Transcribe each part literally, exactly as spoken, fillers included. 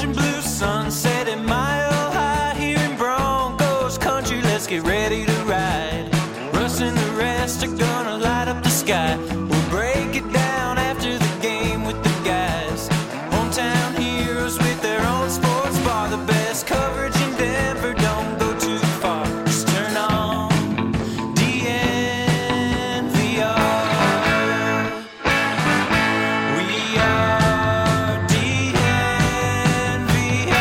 orange and blue sunset at Mile High here in Broncos country. Let's get ready to ride. Russ and the rest are gonna light up the sky. We'll break it down after the game with the guys. Hometown heroes with their own sports bar. The best coverage in Denver, don't go too far. Just turn on D N V R. We are D N V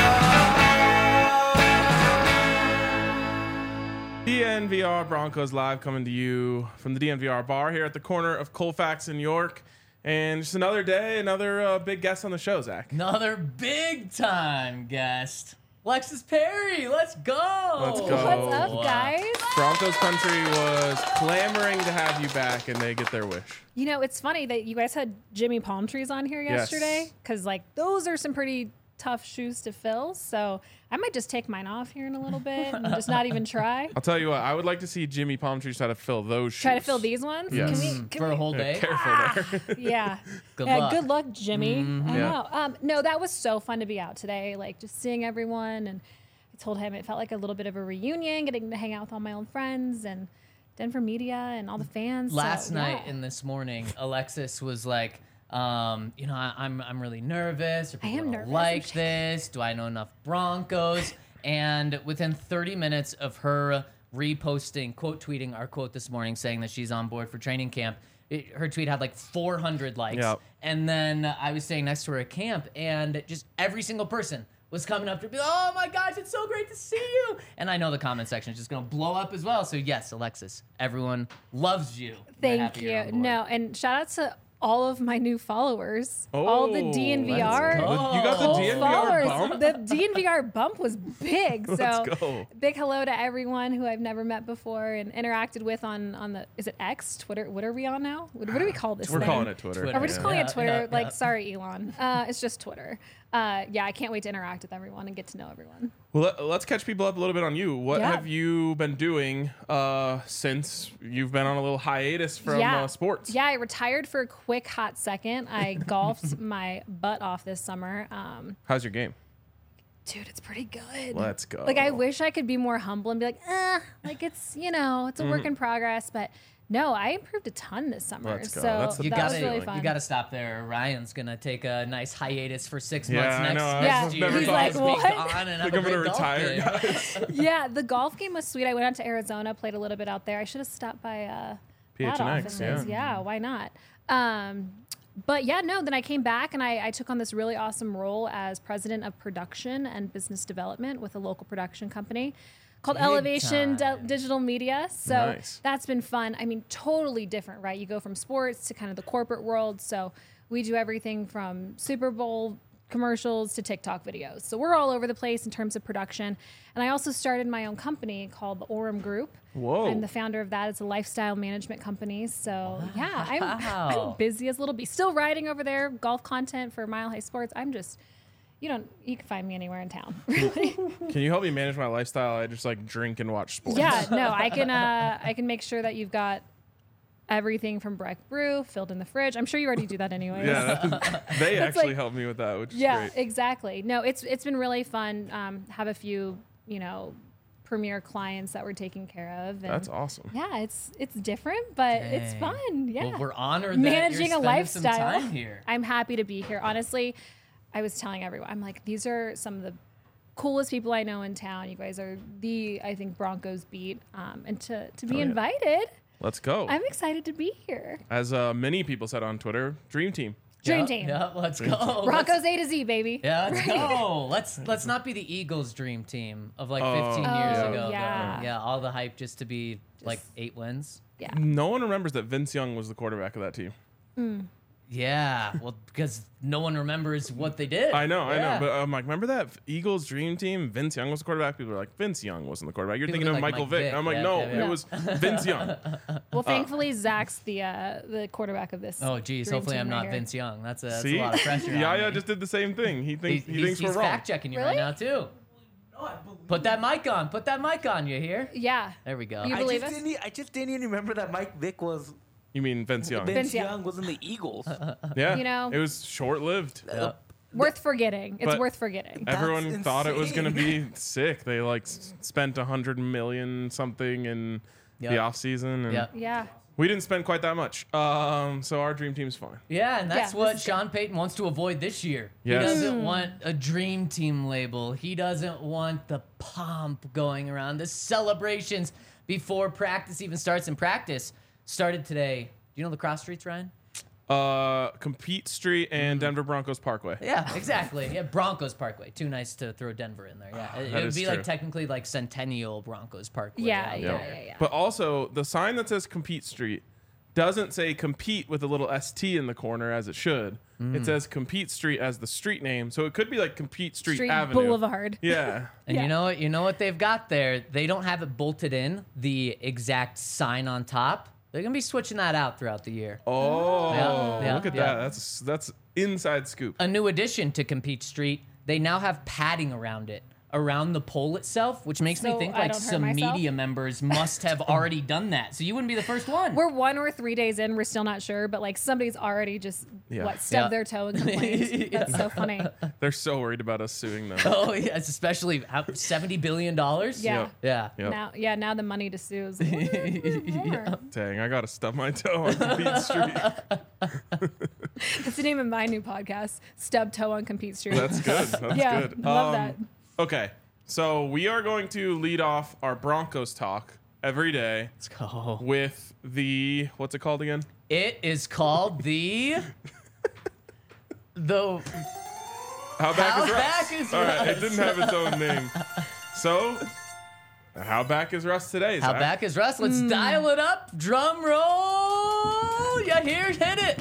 R. D N V R Broncos Live coming to you from the D N V R bar here at the corner of Colfax and York. And just another day, another uh, big guest on the show, Zach. Another big time guest. Alexis Perry, let's go. Let's go. What's up, guys? Broncos country was clamoring to have you back, and they get their wish. You know, it's funny that you guys had Jimmy Palm Trees on here Yes. yesterday because, like, those are some pretty tough shoes to fill. So I might just take mine off here in a little bit and just not even try. I'll tell you what, I would like to see Jimmy Palm Trees try to fill those shoes. Try to fill these ones. Yes. Can we, can For we- a whole Yeah, day. careful there. Yeah. Good yeah, luck. Good luck, Jimmy. I Yeah. know. Um, no, that was so fun to be out today. Like just seeing everyone, and I told him it felt like a little bit of a reunion, getting to hang out with all my old friends and Denver media and all the fans. Last so, night yeah. and this morning, Alexis was like, um, you know, I, I'm I'm really nervous. Are I people am gonna nervous. like this? Do I know enough Broncos? And within thirty minutes of her reposting, quote tweeting our quote this morning, saying that she's on board for training camp, it, her tweet had like four hundred likes. Yep. And then I was staying next to her at camp, and just every single person was coming up to me, oh my gosh, it's so great to see you. And I know the comment section is just going to blow up as well. So yes, Alexis, everyone loves you. They're Thank happy you're on you. board. No, and shout out to all of my new followers. all the Oh, D N V R. let's go. You got the Full D N V R followers. bump? The D N V R bump was big. So Let's go. big hello to everyone who I've never met before and interacted with on on the is it X, Twitter? What are we on now? What, what do we call this? We're thing? calling it Twitter. Twitter. Or we're just Yeah. calling Yeah, it Twitter. yeah, like, yeah. sorry, Elon. Uh, it's just Twitter. Uh, yeah, I can't wait to interact with everyone and get to know everyone. Well, let- let's catch people up a little bit on you. What Yeah. have you been doing uh, since you've been on a little hiatus from yeah. uh, sports? Yeah, I retired for a quick hot second. I golfed my butt off this summer. Um, How's your game? dude, it's pretty good. Let's go. Like, I wish I could be more humble and be like, eh, like it's, you know, it's a work in progress. But no, I improved a ton this summer. Let's go. So That's the You that best was gotta, really fun. you gotta stop there. Ryan's gonna take a nice hiatus for six Yeah, months I next, know. I next just year. never He's thought- like, Be what? gone and I have think a I'm great gonna golf retire, game. guys. yeah, the golf game was sweet. I went out to Arizona, played a little bit out there. I should have stopped by uh, P H that N X, offices. yeah. Yeah, why not? Um, but yeah, no, then I came back and I, I took on this really awesome role as president of production and business development with a local production company called Big Elevation Di- time. Digital Media. So Nice. that's been fun. I mean, totally different, right? You go from sports to kind of the corporate world. So we do everything from Super Bowl commercials to TikTok videos. So we're all over the place in terms of production. And I also started my own company called the Orem Group. Whoa. I'm the founder of that. It's a lifestyle management company. So yeah, I'm, Wow. I'm busy as a little bee. Still writing over there, golf content for Mile High Sports. I'm just, you don't, you can find me anywhere in town. Really. Can you help me manage my lifestyle? I just like drink and watch sports. Yeah, no, I can, uh, I can make sure that you've got everything from Breck Brew filled in the fridge. I'm sure you already do that anyways. Yeah, that- they It's actually like- helped me with that, which is Yeah, great. exactly. No, it's it's been really fun. Um, have a few, you know, premier clients that we're taking care of. And That's awesome. yeah, it's it's different, but it's Dang. fun. Yeah, Well, we're honored that managing you're a spending some lifestyle. time here. I'm happy to be here. Honestly, I was telling everyone, I'm like, these are some of the coolest people I know in town. You guys are the, I think, Broncos beat, um, and to to be Oh, yeah. invited, Let's go. I'm excited to be here. As uh, many people said on Twitter, Dream Team. Dream Yeah, team, Yeah, let's go. Broncos Let's, A to Z, baby. yeah, let's go. Let's let's not be the Eagles' dream team of like Oh. fifteen years Oh, ago. though. yeah. yeah, all the hype just to be like eight wins. Yeah. No one remembers that Vince Young was the quarterback of that team. Yeah, well, because no one remembers what they did. I know, I Yeah. know. But I'm like, remember that Eagles dream team? Vince Young was the quarterback. People were like, Vince Young wasn't the quarterback. You're People thinking of like Michael Mike Vick. Vick. I'm like, Yeah, no, yeah, yeah. it was Vince Young. Well, thankfully, Zach's the uh, the quarterback of this. Oh, geez. dream Hopefully, team I'm right not here. Vince Young. That's a, that's See? a lot of pressure. on Yaya me. just did the same thing. He thinks He- he, he's, thinks he's we're wrong. fact checking you right Really? now too. Put that mic on. Put that mic on. You hear? Yeah. There we go. You I believe just, us? didn't, e- I just didn't even remember that Mike Vick was You mean Vince Young? Vince, Vince Young. Young was in the Eagles. Yeah. You know- it was short lived. Yep. Worth forgetting. It's But worth forgetting. Everyone That's thought it was going to be insane. sick. They like s- spent a hundred million something in Yep. the off season, and Yep. Yeah. we didn't spend quite that much. Um, so our dream team's fine. Yeah, and that's Yeah, what this is Sean Payton wants to avoid this year. Yes. He Mm. doesn't want a dream team label. He doesn't want the pomp going around, the celebrations before practice even starts. And practice started today. Do you know the cross streets, Ryan? Uh, Compete Street and Mm. Denver Broncos Parkway. Yeah, exactly. Yeah, Broncos Parkway. Too nice to throw Denver in there. Yeah, it, That it would is be true. like technically like Centennial Broncos Parkway. Yeah, out yeah, there. yeah, yeah. But also, the sign that says Compete Street doesn't say Compete with a little S T in the corner as it should. Mm. It says Compete Street as the street name, so it could be like Compete Street, Street Avenue. Boulevard. Yeah. And Yeah. you know what? You know what they've got there? They don't have it bolted in, the exact sign on top. They're gonna be switching that out throughout the year. Oh, Yeah, yeah, look at yeah. that. That's that's inside scoop. A new addition to Compete Street, they now have padding around it, around the pole itself, which makes me So think I like don't hurt some myself? media members must have already done that. So you wouldn't be the first one. We're one or three days in. We're still not sure, but like somebody's already just Yeah. what stubbed Yeah. their toe and complained. That's so funny. They're so worried about us suing them. Oh yes, especially how- seventy billion dollars. Yeah. Yep. Yeah. Yep. Now, yeah. Now the money to sue is a little bit more. Dang, I gotta stub my toe on Compete Street. That's the name of my new podcast, Stub Toe on Compete Street. That's good. That's yeah, good. love Um, that. Okay, so we are going to lead off our Broncos talk every day Let's go. with the what's it called again? It is called the the How back How is Russ? Back is All right, it Russ. didn't have its own name. So, how back is Russ today? How Zach? back is Russ? Hmm. Let's dial it up. Drum roll. Yeah, here, hit it.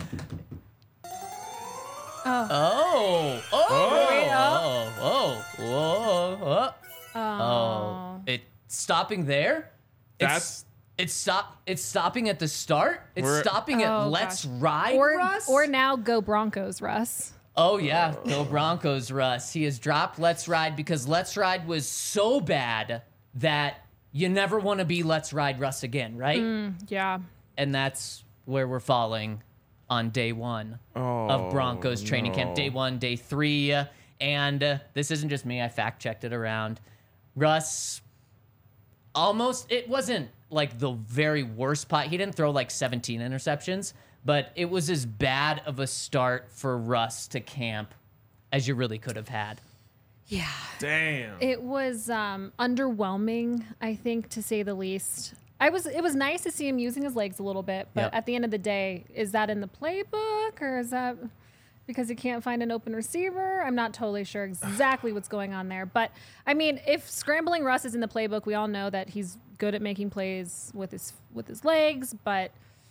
Oh. Oh. Oh. Oh. Wait, Oh. Oh. Whoa. Oh. Oh. Oh. It's stopping there. It's, That's it's stop. It's stopping at the start. It's We're- stopping at Oh, Let's gosh. Ride, Or, Russ. or now go Broncos, Russ. Oh yeah, go Broncos, Russ. He has dropped Let's Ride because Let's Ride was so bad that you never want to be Let's Ride Russ again, right? Yeah. And that's where we're falling on day one of Broncos training camp. no. Day one, day three. And uh, this isn't just me, I fact checked it around. Russ almost, it wasn't like the very worst pot. He didn't throw like seventeen interceptions, but it was as bad of a start for Russ to camp as you really could have had. Yeah. damn. It was um, underwhelming, I think, to say the least. I was. It was nice to see him using his legs a little bit, but Yep. at the end of the day, is that in the playbook or is that because he can't find an open receiver? I'm not totally sure exactly what's going on there. But I mean, if scrambling Russ is in the playbook, we all know that he's good at making plays with his with his legs. But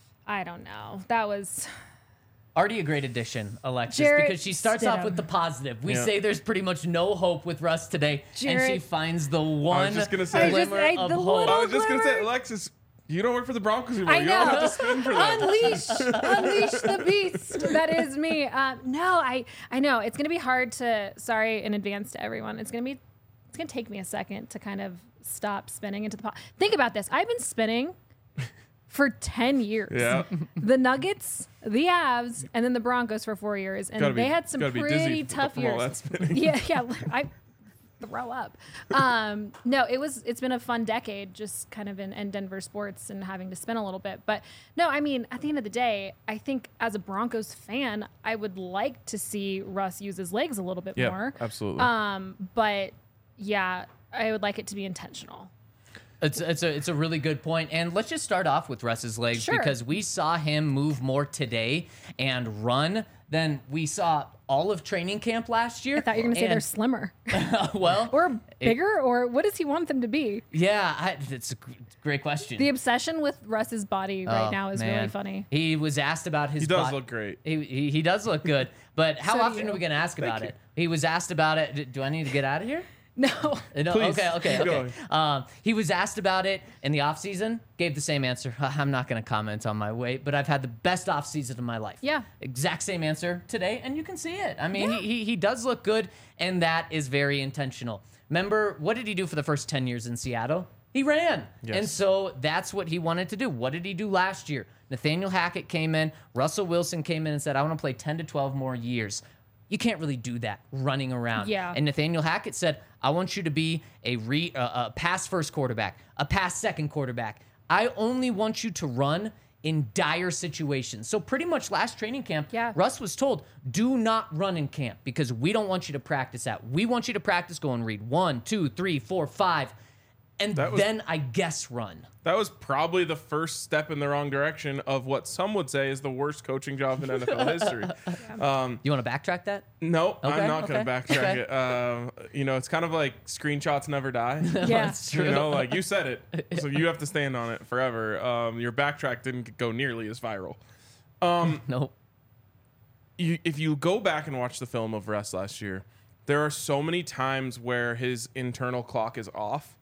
I don't know. That was. Already a great addition, Alexis, Jarrett because she starts off Stidham. with the positive. We Yeah. say there's pretty much no hope with Russ today, and she Jarrett- finds the one just gonna say- I just- glimmer I- of the hope. little- I was just gonna say, Glimmer. Alexis, you don't work for the Broncos anymore. I You don't know. have to spin for that. Unleash, unleash the beast. That is me. Um, no, I, I know it's gonna be hard to. Sorry in advance to everyone. It's gonna be, it's gonna take me a second to kind of stop spinning into the pot. Think about this. I've been spinning for ten years. Yeah. The Nuggets, the Avs, and then the Broncos for four years, and Gotta be- they had some gotta be pretty dizzy tough from all years. that spinning. Yeah, yeah. I throw up. Um, no, it was. It's been a fun decade, just kind of in, in Denver sports and having to spin a little bit. But no, I mean, at the end of the day, I think as a Broncos fan, I would like to see Russ use his legs a little bit Yeah, more. absolutely. Um, but yeah, I would like it to be intentional. It's it's a it's a really good point, and let's just start off with Russ's legs Sure. because we saw him move more today and run than we saw all of training camp last year. I thought you were going to say they're And- slimmer well, or bigger, or what does he want them to be? yeah, I, it's a g- great question. The obsession with Russ's body right Oh, now is really man. funny. He was asked about his. He does bod- look great. He, he he does look good, but how So do often you. are we gonna ask about you. it? He was asked about it. D- Do I need to get out of here? No. Uh, No, Please, okay, okay, keep okay. going. Um, he was asked about it in the offseason, gave the same answer. I'm not going to comment on my weight, but I've had the best offseason of my life. Yeah. Exact same answer today, and you can see it. I mean, he, he, he does look good, and that is very intentional. Remember, what did he do for the first ten years in Seattle? He ran. Yes. And so that's what he wanted to do. What did he do last year? Nathaniel Hackett came in, Russell Wilson came in and said, I want to play ten to twelve more years. You can't really do that running around. Yeah. And Nathaniel Hackett said, I want you to be a, re, uh, a pass first quarterback, a pass second quarterback. I only want you to run in dire situations. So pretty much last training camp, Yeah. Russ was told, do not run in camp because we don't want you to practice that. We want you to practice go and read one, two, three, four, five, and That was- then I guess run. That was probably the first step in the wrong direction of what some would say is the worst coaching job in N F L history. You want to backtrack that? No, Okay, I'm not going to okay, backtrack okay. it. Um, you know, it's kind of like screenshots never die. Yeah. That's true. You know, like you said it, so you have to stand on it forever. Um, your backtrack didn't go nearly as viral. Nope. You, if you go back and watch the film of Russ last year, there are so many times where his internal clock is off,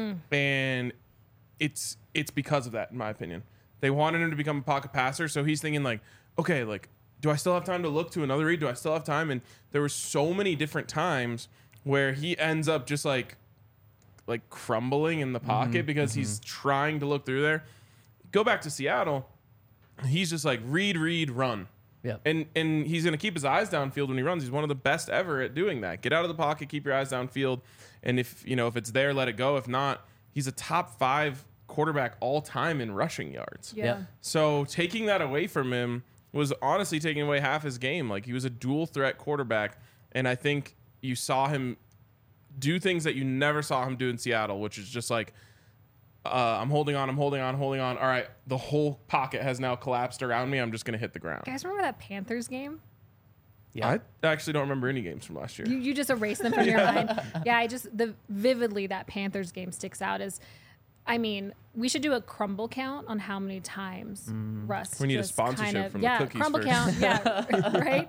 and it's it's because of that, in my opinion. They wanted him to become a pocket passer, so he's thinking like, okay, like, do I still have time to look to another read? Do I still have time? And there were so many different times where he ends up just like like crumbling in the pocket because he's trying to look through there. Go back to Seattle, he's just like read, read, run. Yeah. And and he's going to keep his eyes downfield when he runs. He's one of the best ever at doing that. Get out of the pocket, keep your eyes downfield, and if you know if it's there, let it go. If not, he's a top five quarterback all time in rushing yards. Yeah. Yeah. So taking that away from him was honestly taking away half his game. Like he was a dual threat quarterback, and I think you saw him do things that you never saw him do in Seattle, which is just like, uh, I'm holding on, I'm holding on, holding on. All right, the whole pocket has now collapsed around me. I'm just going to hit the ground. You guys remember that Panthers game? Yeah. I actually don't remember any games from last year. You, you just erase them from your mind. Yeah, I just the vividly that Panthers game sticks out as, I mean, we should do a crumble count on how many times Russ. We need a just sponsorship kind of, from the yeah, cookies crumble first. count. Yeah, right.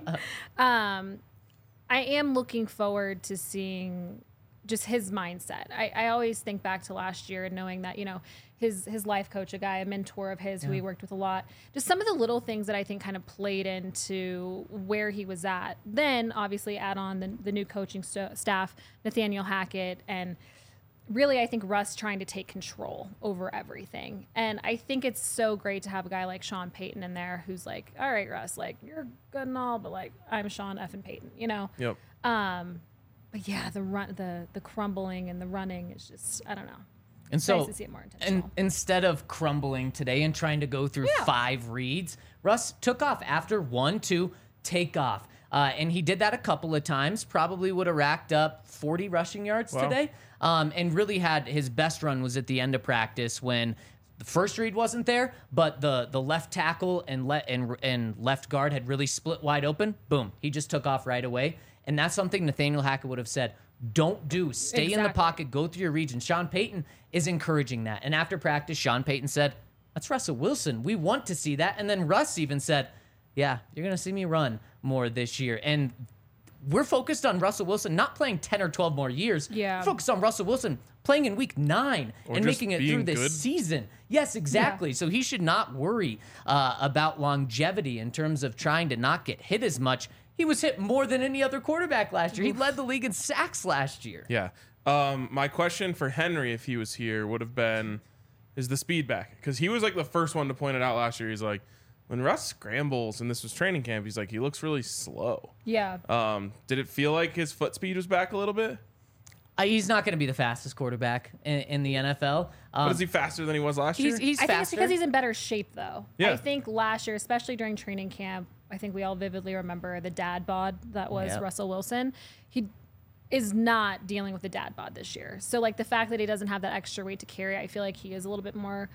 Um, I am looking forward to seeing just his mindset. I, I always think back to last year and knowing that, you know, his his life coach, a guy, a mentor of his who he worked with a lot, just some of the little things that I think kind of played into where he was at. Then obviously add on the, the new coaching st- staff, Nathaniel Hackett, and really I think Russ trying to take control over everything. And I think it's so great to have a guy like Sean Payton in there who's like, all right, Russ, like you're good and all, but like I'm Sean effing Payton, you know? Yep. Um, but yeah, the run, the the crumbling and the running is just, I don't know. And It's so, nice to see it more intentional. and instead of crumbling today and trying to go through Yeah. five reads, Russ took off after one, two, take off. Uh, and he did that a couple of times, probably would have racked up forty rushing yards Wow. today. Um, and really had his best run was at the end of practice when the first read wasn't there, but the the left tackle and, le- and, and left guard had really split wide open. Boom. He just took off right away. And that's something Nathaniel Hackett would have said, don't do. Stay in the Exactly. pocket, go through your reads. And Sean Payton is encouraging that. And after practice, Sean Payton said, that's Russell Wilson. We want to see that. And then Russ even said, yeah, you're going to see me run more this year. And we're focused on Russell Wilson not playing ten or twelve more years. Yeah. We're focused on Russell Wilson playing in week nine Or and just making it being through this good. season. Yes, exactly. So he should not worry uh, about longevity in terms of trying to not get hit as much. He was hit more than any other quarterback last year. He led the league in sacks last year. Yeah. Um, my question for Henry, if he was here, would have been, is the speed back? Because he was like the first one to point it out last year. He's like, when Russ scrambles, and this was training camp, he's like, he looks really slow. yeah. Um, did it feel like his foot speed was back a little bit? Uh, he's not going to be the fastest quarterback in, in the N F L. Um, But is he faster than he was last he's year? he's I think it's faster. because he's in better shape, though. Yeah. I think last year, especially during training camp, I think we all vividly remember the dad bod that was Yep. Russell Wilson. He is not dealing with the dad bod this year. So, like, the fact that he doesn't have that extra weight to carry, I feel like he is a little bit more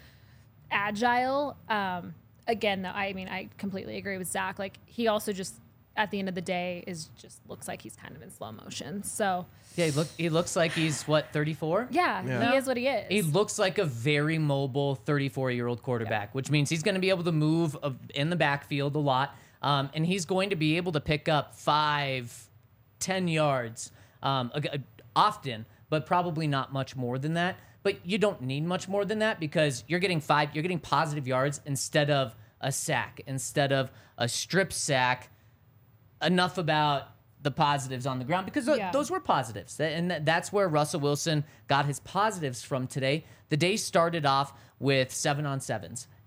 agile. Um, again, though, I mean, I completely agree with Zach. Like, he also just, at the end of the day, is just looks like he's kind of in slow motion. So, yeah, he, look, he looks like he's, what, thirty-four? yeah, Yeah. he is what he is. He looks like a very mobile thirty-four-year-old quarterback, which means he's going to be able to move uh, in the backfield a lot, um, and he's going to be able to pick up five, ten yards um, ag- uh, often, but probably not much more than that. But you don't need much more than that because you're getting five, you're getting positive yards instead of a sack, instead of a strip sack. Enough about the positives on the ground because th- Yeah. those were positives. Th- And th- that's where Russell Wilson got his positives from today. The day started off with seven on sevens.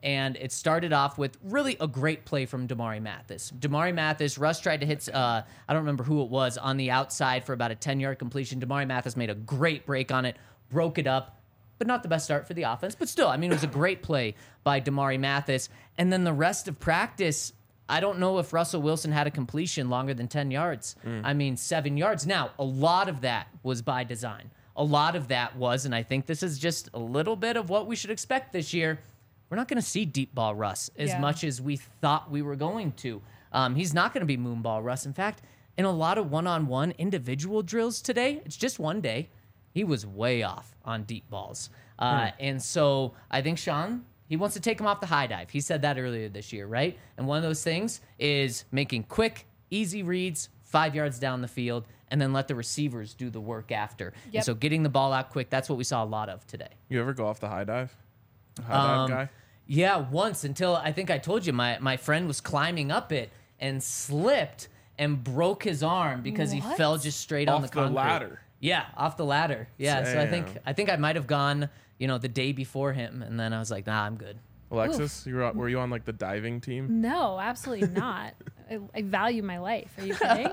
and it started off with really a great play from Damari Mathis. Damari Mathis, Russ tried to hit, uh, I don't remember who it was, on the outside for about a ten-yard completion. Damari Mathis made a great break on it, broke it up, but not the best start for the offense. But still, I mean, it was a great play by Damari Mathis. And then the rest of practice, I don't know if Russell Wilson had a completion longer than ten yards. Mm. I mean, seven yards. Now, a lot of that was by design. A lot of that was, and I think this is just a little bit of what we should expect this year, we're not going to see deep ball Russ as Yeah. much as we thought we were going to. Um, he's not going to be moon ball Russ. In fact, in a lot of one-on-one individual drills today, it's just one day, he was way off on deep balls. Uh, hmm. And so I think Sean, he wants to take him off the high dive. He said that earlier this year, right? And one of those things is making quick, easy reads five yards down the field, and then let the receivers do the work after. Yep. And so getting the ball out quick, that's what we saw a lot of today. You ever go off the high dive? High Um, dive guy? Yeah, once, until I think I told you my, my friend was climbing up it and slipped and broke his arm because he What? fell just straight on the Off the concrete. ladder. Yeah, off the ladder. Yeah, so I think Damn. I think I might have gone, you know, the day before him, and then I was like, nah, I'm good. Alexis, you were, on- were you on like the diving team? No, absolutely not. I, I value my life. Are you kidding?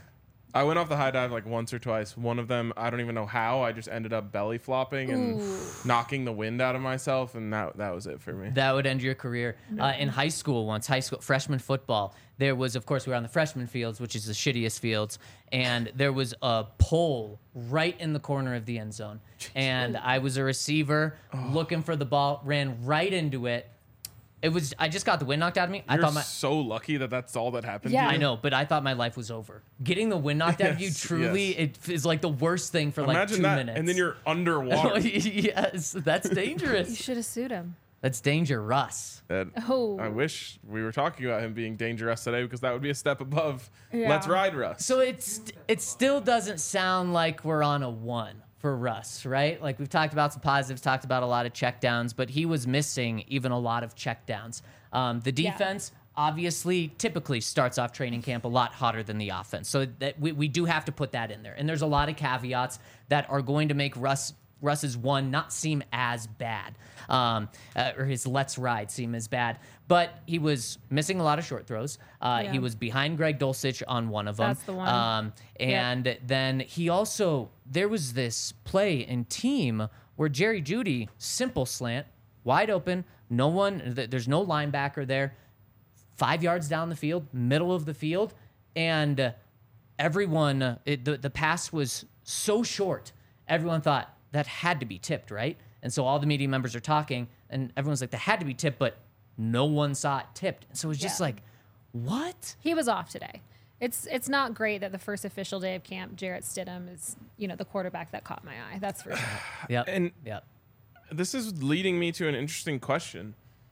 I went off the high dive like once or twice. One of them, I don't even know how. I just ended up belly flopping and Ooh. knocking the wind out of myself, and that that was it for me. That would end your career. Uh, in high school once, high school freshman football, there was, of course, we were on the freshman fields, which is the shittiest fields, and there was a pole right in the corner of the end zone. And I was a receiver looking for the ball, ran right into it. It was, I just got the wind knocked out of me. I You're thought my, so lucky that that's all that happened. Yeah. to you. I know, but I thought my life was over. Getting the wind knocked out of you, Yes, truly, yes. it is like the worst thing for like Imagine two that, minutes. and then you're underwater. Yes, that's You dangerous. should have sued him. That's dangerous. And Oh. I wish we were talking about him being dangerous today, because that would be a step above. Yeah. Let's ride Russ. So it's it still doesn't sound like we're on a one for Russ, right? Like we've talked about some positives, talked about a lot of checkdowns, but he was missing even a lot of checkdowns. Um, the Yeah. defense obviously typically starts off training camp a lot hotter than the offense. So that we, we do have to put that in there. And there's a lot of caveats that are going to make Russ Russ's one not seem as bad, um, uh, or his let's ride seem as bad. But he was missing a lot of short throws. Uh, Yeah. He was behind Greg Dulcich on one of them. That's the one. Um, and then he also, there was this play in team where Jerry Jeudy, simple slant, wide open, no one, th- there's no linebacker there, five yards down the field, middle of the field, and uh, everyone, uh, it, the, the pass was so short, everyone thought that had to be tipped, right? And so all the media members are talking, and everyone's like, that had to be tipped, but no one saw it tipped. And so it's just Yeah. like, what? He was off today. It's it's not great that the first official day of camp, Jarrett Stidham is, you know, the quarterback that caught my eye. That's for sure. Yep. And yep. this is leading me to an interesting question.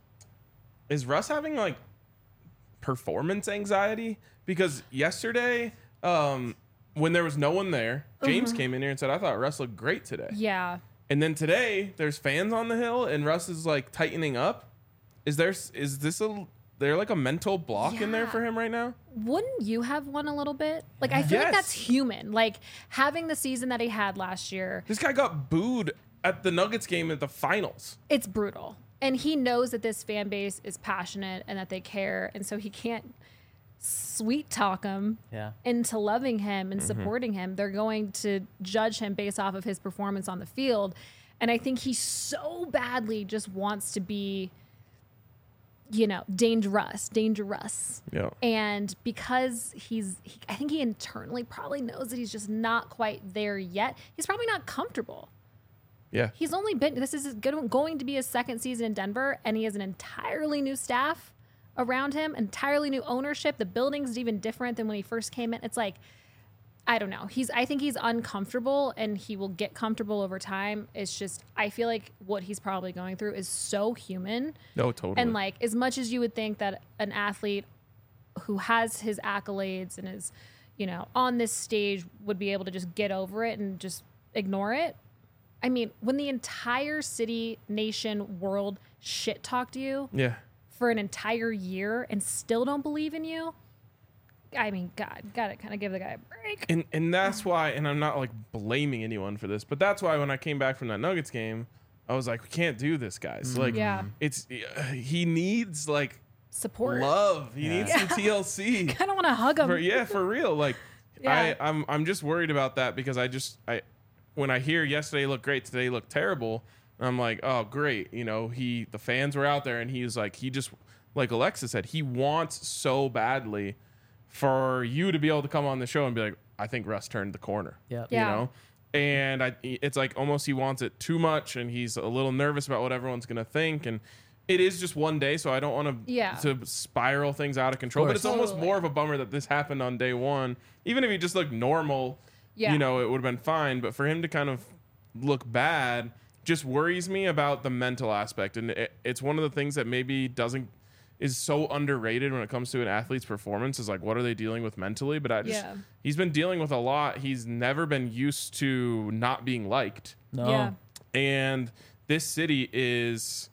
Is Russ having like performance anxiety? Because yesterday, um, when there was no one there, James came in here and said, I thought Russ looked great today. Yeah. And then today, there's fans on the hill and Russ is like tightening up. Is there, is this a, there like a mental block in there Yeah. for him right now? Wouldn't you have one a little bit? Like, I feel like Yes. that's human. Like, having the season that he had last year, This guy got booed at the Nuggets game at the finals. it's brutal. And he knows that this fan base is passionate and that they care. And so he can't sweet talk them Yeah. into loving him and supporting him. They're going to judge him based off of his performance on the field. And I think he so badly just wants to be, you know, dangerous, dangerous. Yeah. And because he's, he, I think he internally probably knows that he's just not quite there yet. He's probably not comfortable. Yeah. He's only been, this is good, going to be his second season in Denver, and he has an entirely new staff around him, entirely new ownership. The building's even different than when he first came in. It's like, I don't know. He's, I think he's uncomfortable, and he will get comfortable over time. It's just, I feel like what he's probably going through is so human. No, totally. And like, as much as you would think that an athlete who has his accolades and is, you know, on this stage would be able to just get over it and just ignore it. I mean, when the entire city, nation, world shit talked you yeah. for an entire year and still don't believe in you, I mean, God, gotta kind of give the guy a break. And and that's why, and I'm not like blaming anyone for this, but that's why when I came back from that Nuggets game, I was like, we can't do this, guys. Like, Yeah. it's he needs like Support. love. He Yeah. needs some T L C. I don't want to hug him. For, yeah, for real. Like, Yeah. I, I'm I'm just worried about that because I just I when I hear yesterday looked great, today looked terrible, I'm like, oh great. You know, he the fans were out there and he was like, he just like Alexa said, he wants so badly for you to be able to come on the show and be like, I think Russ turned the corner. Yep. Yeah. You know? And I it's like almost he wants it too much and he's a little nervous about what everyone's gonna think. And it is just one day, so I don't want to Yeah. to spiral things out of control. Of But course. it's almost Totally. more of a bummer that this happened on day one. Even if he just looked normal, Yeah. you know, it would have been fine. But for him to kind of look bad just worries me about the mental aspect. And it, it's one of the things that maybe doesn't is so underrated when it comes to an athlete's performance is like, what are they dealing with mentally? But I just, Yeah. he's been dealing with a lot. He's never been used to not being liked. No. Yeah. And this city is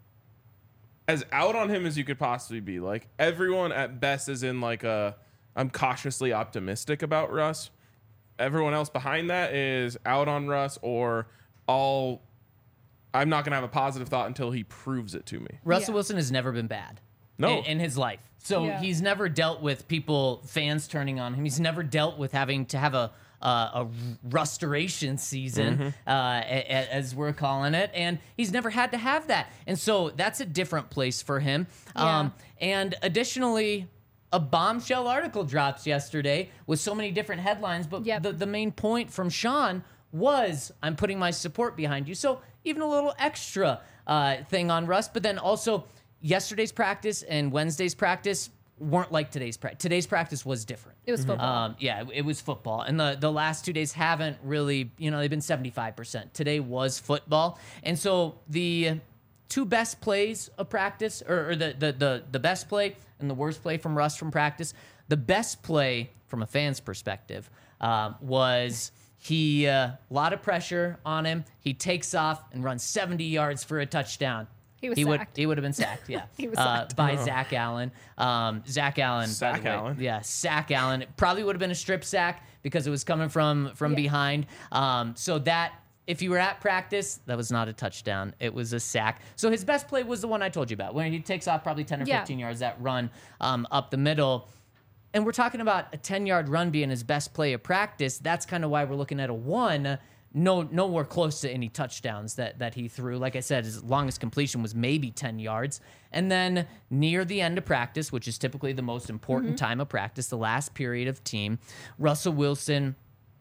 as out on him as you could possibly be. Like everyone at best is in like a I'm cautiously optimistic about Russ. Everyone else behind that is out on Russ or all I'm not going to have a positive thought until he proves it to me. Russell Yeah. Wilson has never been bad. No. in, in his life. So Yeah. he's never dealt with people, fans turning on him. He's never dealt with having to have a uh, a restoration season, uh, a, a- as we're calling it, and he's never had to have that. And so that's a different place for him. Um, and additionally, a bombshell article drops yesterday with so many different headlines, but Yep. the, the main point from Sean was, I'm putting my support behind you. So even a little extra uh, thing on Russ, but then also yesterday's practice and Wednesday's practice weren't like today's practice. Today's practice was different. It was football. Um, yeah, it, it was football. And the, the last two days haven't really, you know, they've been seventy-five percent. Today was football. And so the two best plays of practice, or, or the, the, the, the best play and the worst play from Russ from practice, the best play from a fan's perspective um, was he, a uh, lot of pressure on him. He takes off and runs seventy yards for a touchdown. He was he would sacked. he would have been sacked, yeah. He was uh, sacked. by Zach Allen. Um, Zach Allen, by Sack the way, Allen. yeah, sack Allen. It probably would have been a strip sack because it was coming from from Yeah. behind. Um, so that if you were at practice, that was not a touchdown. It was a sack. So his best play was the one I told you about, when he takes off probably ten or Yeah. fifteen yards, that run um, up the middle. And we're talking about a ten-yard run being his best play of practice. That's kind of why we're looking at a one. No, nowhere close to any touchdowns that that he threw. Like I said, his longest completion was maybe ten yards. And then near the end of practice, which is typically the most important time of practice, the last period of team, Russell Wilson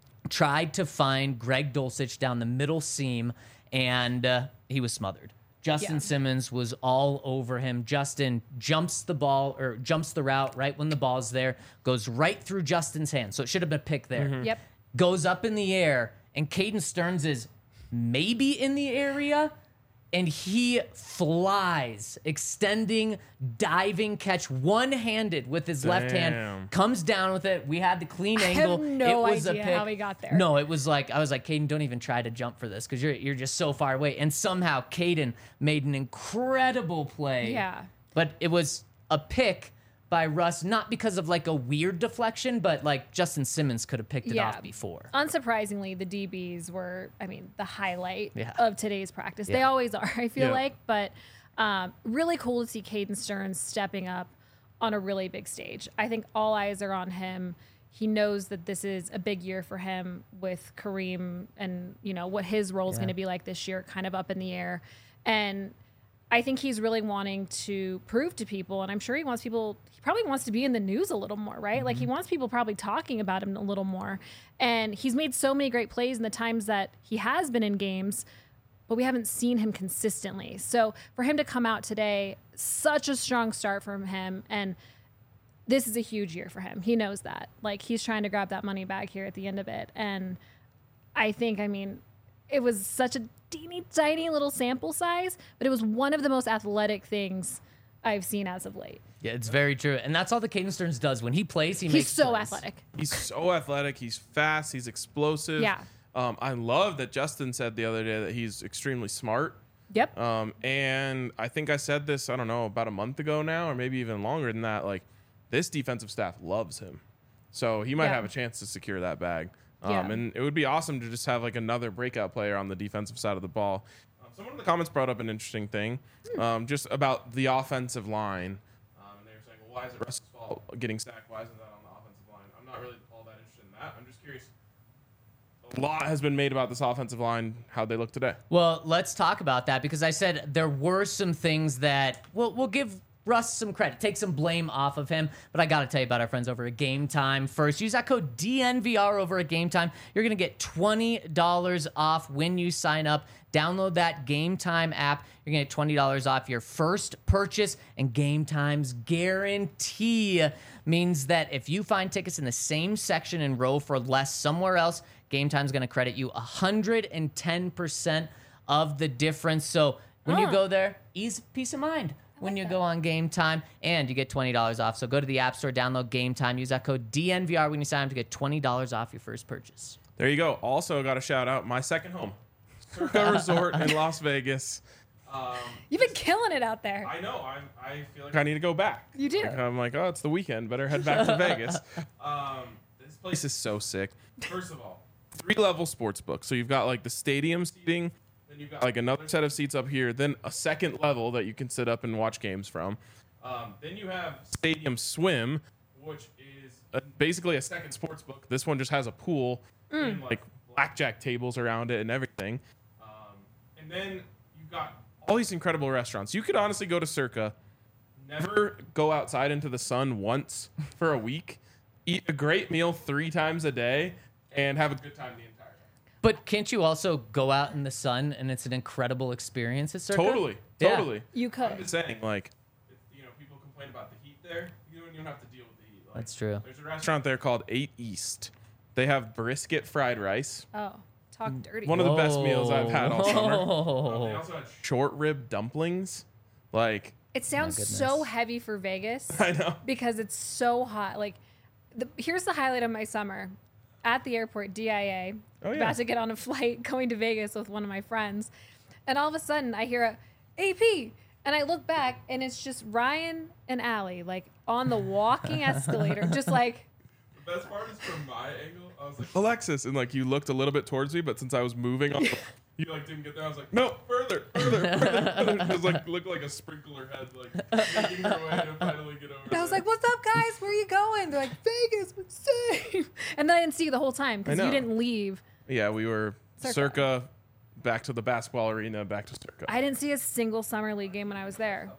tried to find Greg Dulcich down the middle seam, and uh, he was smothered. Justin Yeah. Simmons was all over him. Justin jumps the ball or jumps the route right when the ball's there, goes right through Justin's hand. So it should have been a pick there. Yep. Goes up in the air, and Caden Stearns is maybe in the area, and he flies, extending, diving catch, one-handed with his left hand, Damn. comes down with it. We had the clean I angle. have no it was idea a pick. how he got there. No, it was like I was like, Caden, don't even try to jump for this because you're you're just so far away. And somehow Caden made an incredible play. Yeah. But it was a pick by Russ, not because of like a weird deflection, but like Justin Simmons could have picked it Yeah. off before. Unsurprisingly, the D Bs were, I mean, the highlight Yeah. of today's practice. They Yeah. always are, I feel Yeah. like. But um, really cool to see Caden Stearns stepping up on a really big stage. I think all eyes are on him. He knows that this is a big year for him with Kareem and, you know, what his role is Yeah. going to be like this year, kind of up in the air. And I think he's really wanting to prove to people, and I'm sure he wants people, he probably wants to be in the news a little more, right? Like he wants people probably talking about him a little more. And he's made so many great plays in the times that he has been in games, but we haven't seen him consistently. So for him to come out today, such a strong start from him. And this is a huge year for him. He knows that. Like he's trying to grab that money back here at the end of it. And I think, I mean, it was such a teeny tiny little sample size, but it was one of the most athletic things I've seen as of late. Yeah, it's very true. And that's all the Caden Stearns does. When he plays, he He's makes so plays. athletic. He's so athletic. He's fast. He's explosive. Yeah. Um, I love that Justin said the other day that he's extremely smart. Yep. Um, and I think I said this, I don't know, about a month ago now, or maybe even longer than that. Like, this defensive staff loves him. So he might Yeah. have a chance to secure that bag. Um, Yeah. And it would be awesome to just have, like, another breakout player on the defensive side of the ball. Um, someone in the comments brought up an interesting thing, um, just about the offensive line. Um, and they were saying, well, why is it Russ's fault getting sacked? Why isn't that on the offensive line? I'm not really all that interested in that. I'm just curious. A lot has been made about this offensive line, how they look today. Well, let's talk about that because I said there were some things that we'll, we'll give Russ some credit, take some blame off of him. But I got to tell you about our friends over at Game Time first. Use that code D N V R over at Game Time. You're going to get twenty dollars off when you sign up. Download that Game Time app. You're going to get twenty dollars off your first purchase. And Game Time's guarantee means that if you find tickets in the same section and row for less somewhere else, Game Time's going to credit you one hundred ten percent of the difference. So when Huh. you go there, ease peace of mind when you go on Game Time, and you get twenty dollars off. So go to the App Store, download Game Time, use that code D N V R when you sign up to get twenty dollars off your first purchase. There you go. Also, got to shout out my second home, Circa Resort in Las Vegas. Um, You've been killing it out there. I know. I'm, I feel like I need to go back. You do. Like, I'm like, oh, it's the weekend. Better head back to Vegas. Um, this place is so sick. First of all, three-level sports book. So you've got like the stadium seating, then you've got like another set of seats up here, then a second level that you can sit up and watch games from. Um, then you have Stadium Swim, which is a, basically a second sports book. This one just has a pool and like blackjack tables around it and everything. Um, and then you've got all these incredible restaurants. You could honestly go to Circa, never go outside into the sun once for a week, eat a great meal three times a day, and have a good time the entire time. But can't you also go out in the sun and it's an incredible experience at Circa? Totally, Yeah. totally. You could. I'm just saying, like, if, you know, people complain about the heat there. You don't, you don't have to deal with the heat. Like, That's true. There's a restaurant there called Eight East. They have brisket fried rice. Oh, talk dirty. One of the best meals I've had all summer. Um, they Whoa. also had short rib dumplings. Like, It sounds goodness. so heavy for Vegas I know. because it's so hot. Like, the, here's the highlight of my summer. At the airport, D I A, Oh, yeah. about to get on a flight going to Vegas with one of my friends. And all of a sudden, I hear a A P. And I look back, and it's just Ryan and Allie, like, on the walking escalator, just like, The best part is from my angle, I was like, Alexis, and like you looked a little bit towards me, but since I was moving, on, you like didn't get there. I was like, no, further, further, further. It was like looked like a sprinkler head, like making her way to finally get over. and I was there. like, what's up, guys? Where are you going? They're like, Vegas, but safe. And then I didn't see you the whole time because I you know. didn't leave. yeah, we were Circa. circa. back to the basketball arena, back to Circa. I didn't see a single summer league game when I was there.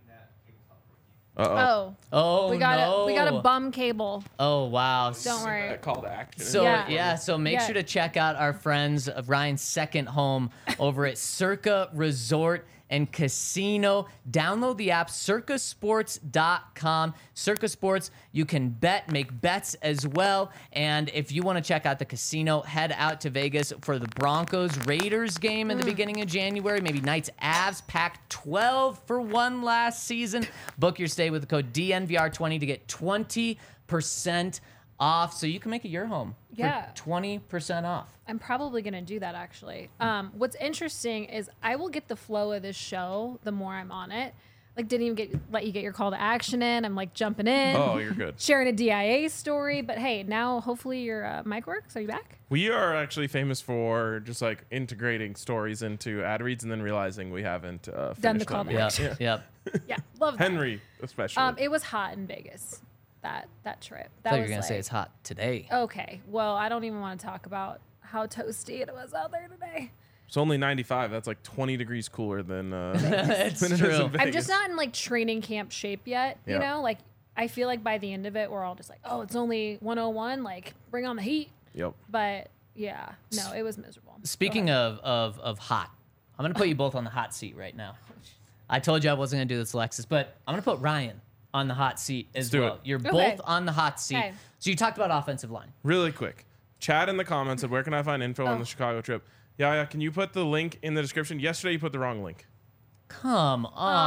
Uh oh. Oh, Oh, we got no. a we got a bum cable. Oh, wow. Don't worry. That call to action. So Yeah. yeah. so make Yeah. sure to check out our friends of Ryan's second home over at Circa Resort and Casino. Download the app circa sports dot com. Circa Sports, you can bet, make bets as well. And if you want to check out the casino, head out to Vegas for the Broncos Raiders game in the beginning of January. Maybe Knights Avs, Pac twelve for one last season. Book your stay with the code D N V R twenty to get twenty percent off, so you can make it your home. for Yeah. twenty percent off. I'm probably gonna do that actually. Um, what's interesting is I will get the flow of this show the more I'm on it. Like, didn't even get let you get your call to action in. I'm like jumping in, Oh, you're good. sharing a D I A story. But hey, now hopefully your uh, mic works. Are you back? We are actually famous for just like integrating stories into ad reads and then realizing we haven't uh, Done the finished call them to yet. Yep, yep. Yeah, love that. Henry, especially. Um, it was hot in Vegas. That that trip. I That thought you was were gonna say like- it's hot today. Okay. Well, I don't even want to talk about how toasty it was out there today. It's only ninety-five. That's like twenty degrees cooler than uh, It's than it is in true. I'm Vegas. just not in like training camp shape yet. You Yeah. know, like I feel like by the end of it, we're all just like, oh, it's only one oh one. Like, bring on the heat. Yep. But yeah, no, it was miserable. Speaking of, of of hot, I'm gonna put you both on the hot seat right now. I told you I wasn't gonna do this, Alexis, but I'm gonna put Ryan on the hot seat as do well. it. You're Okay. both on the hot seat. Okay. So you talked about offensive line. Really quick. Chad in the comments said, where can I find info on Oh. the Chicago trip? Yeah, yeah. Can you put the link in the description? Yesterday you put the wrong link. Come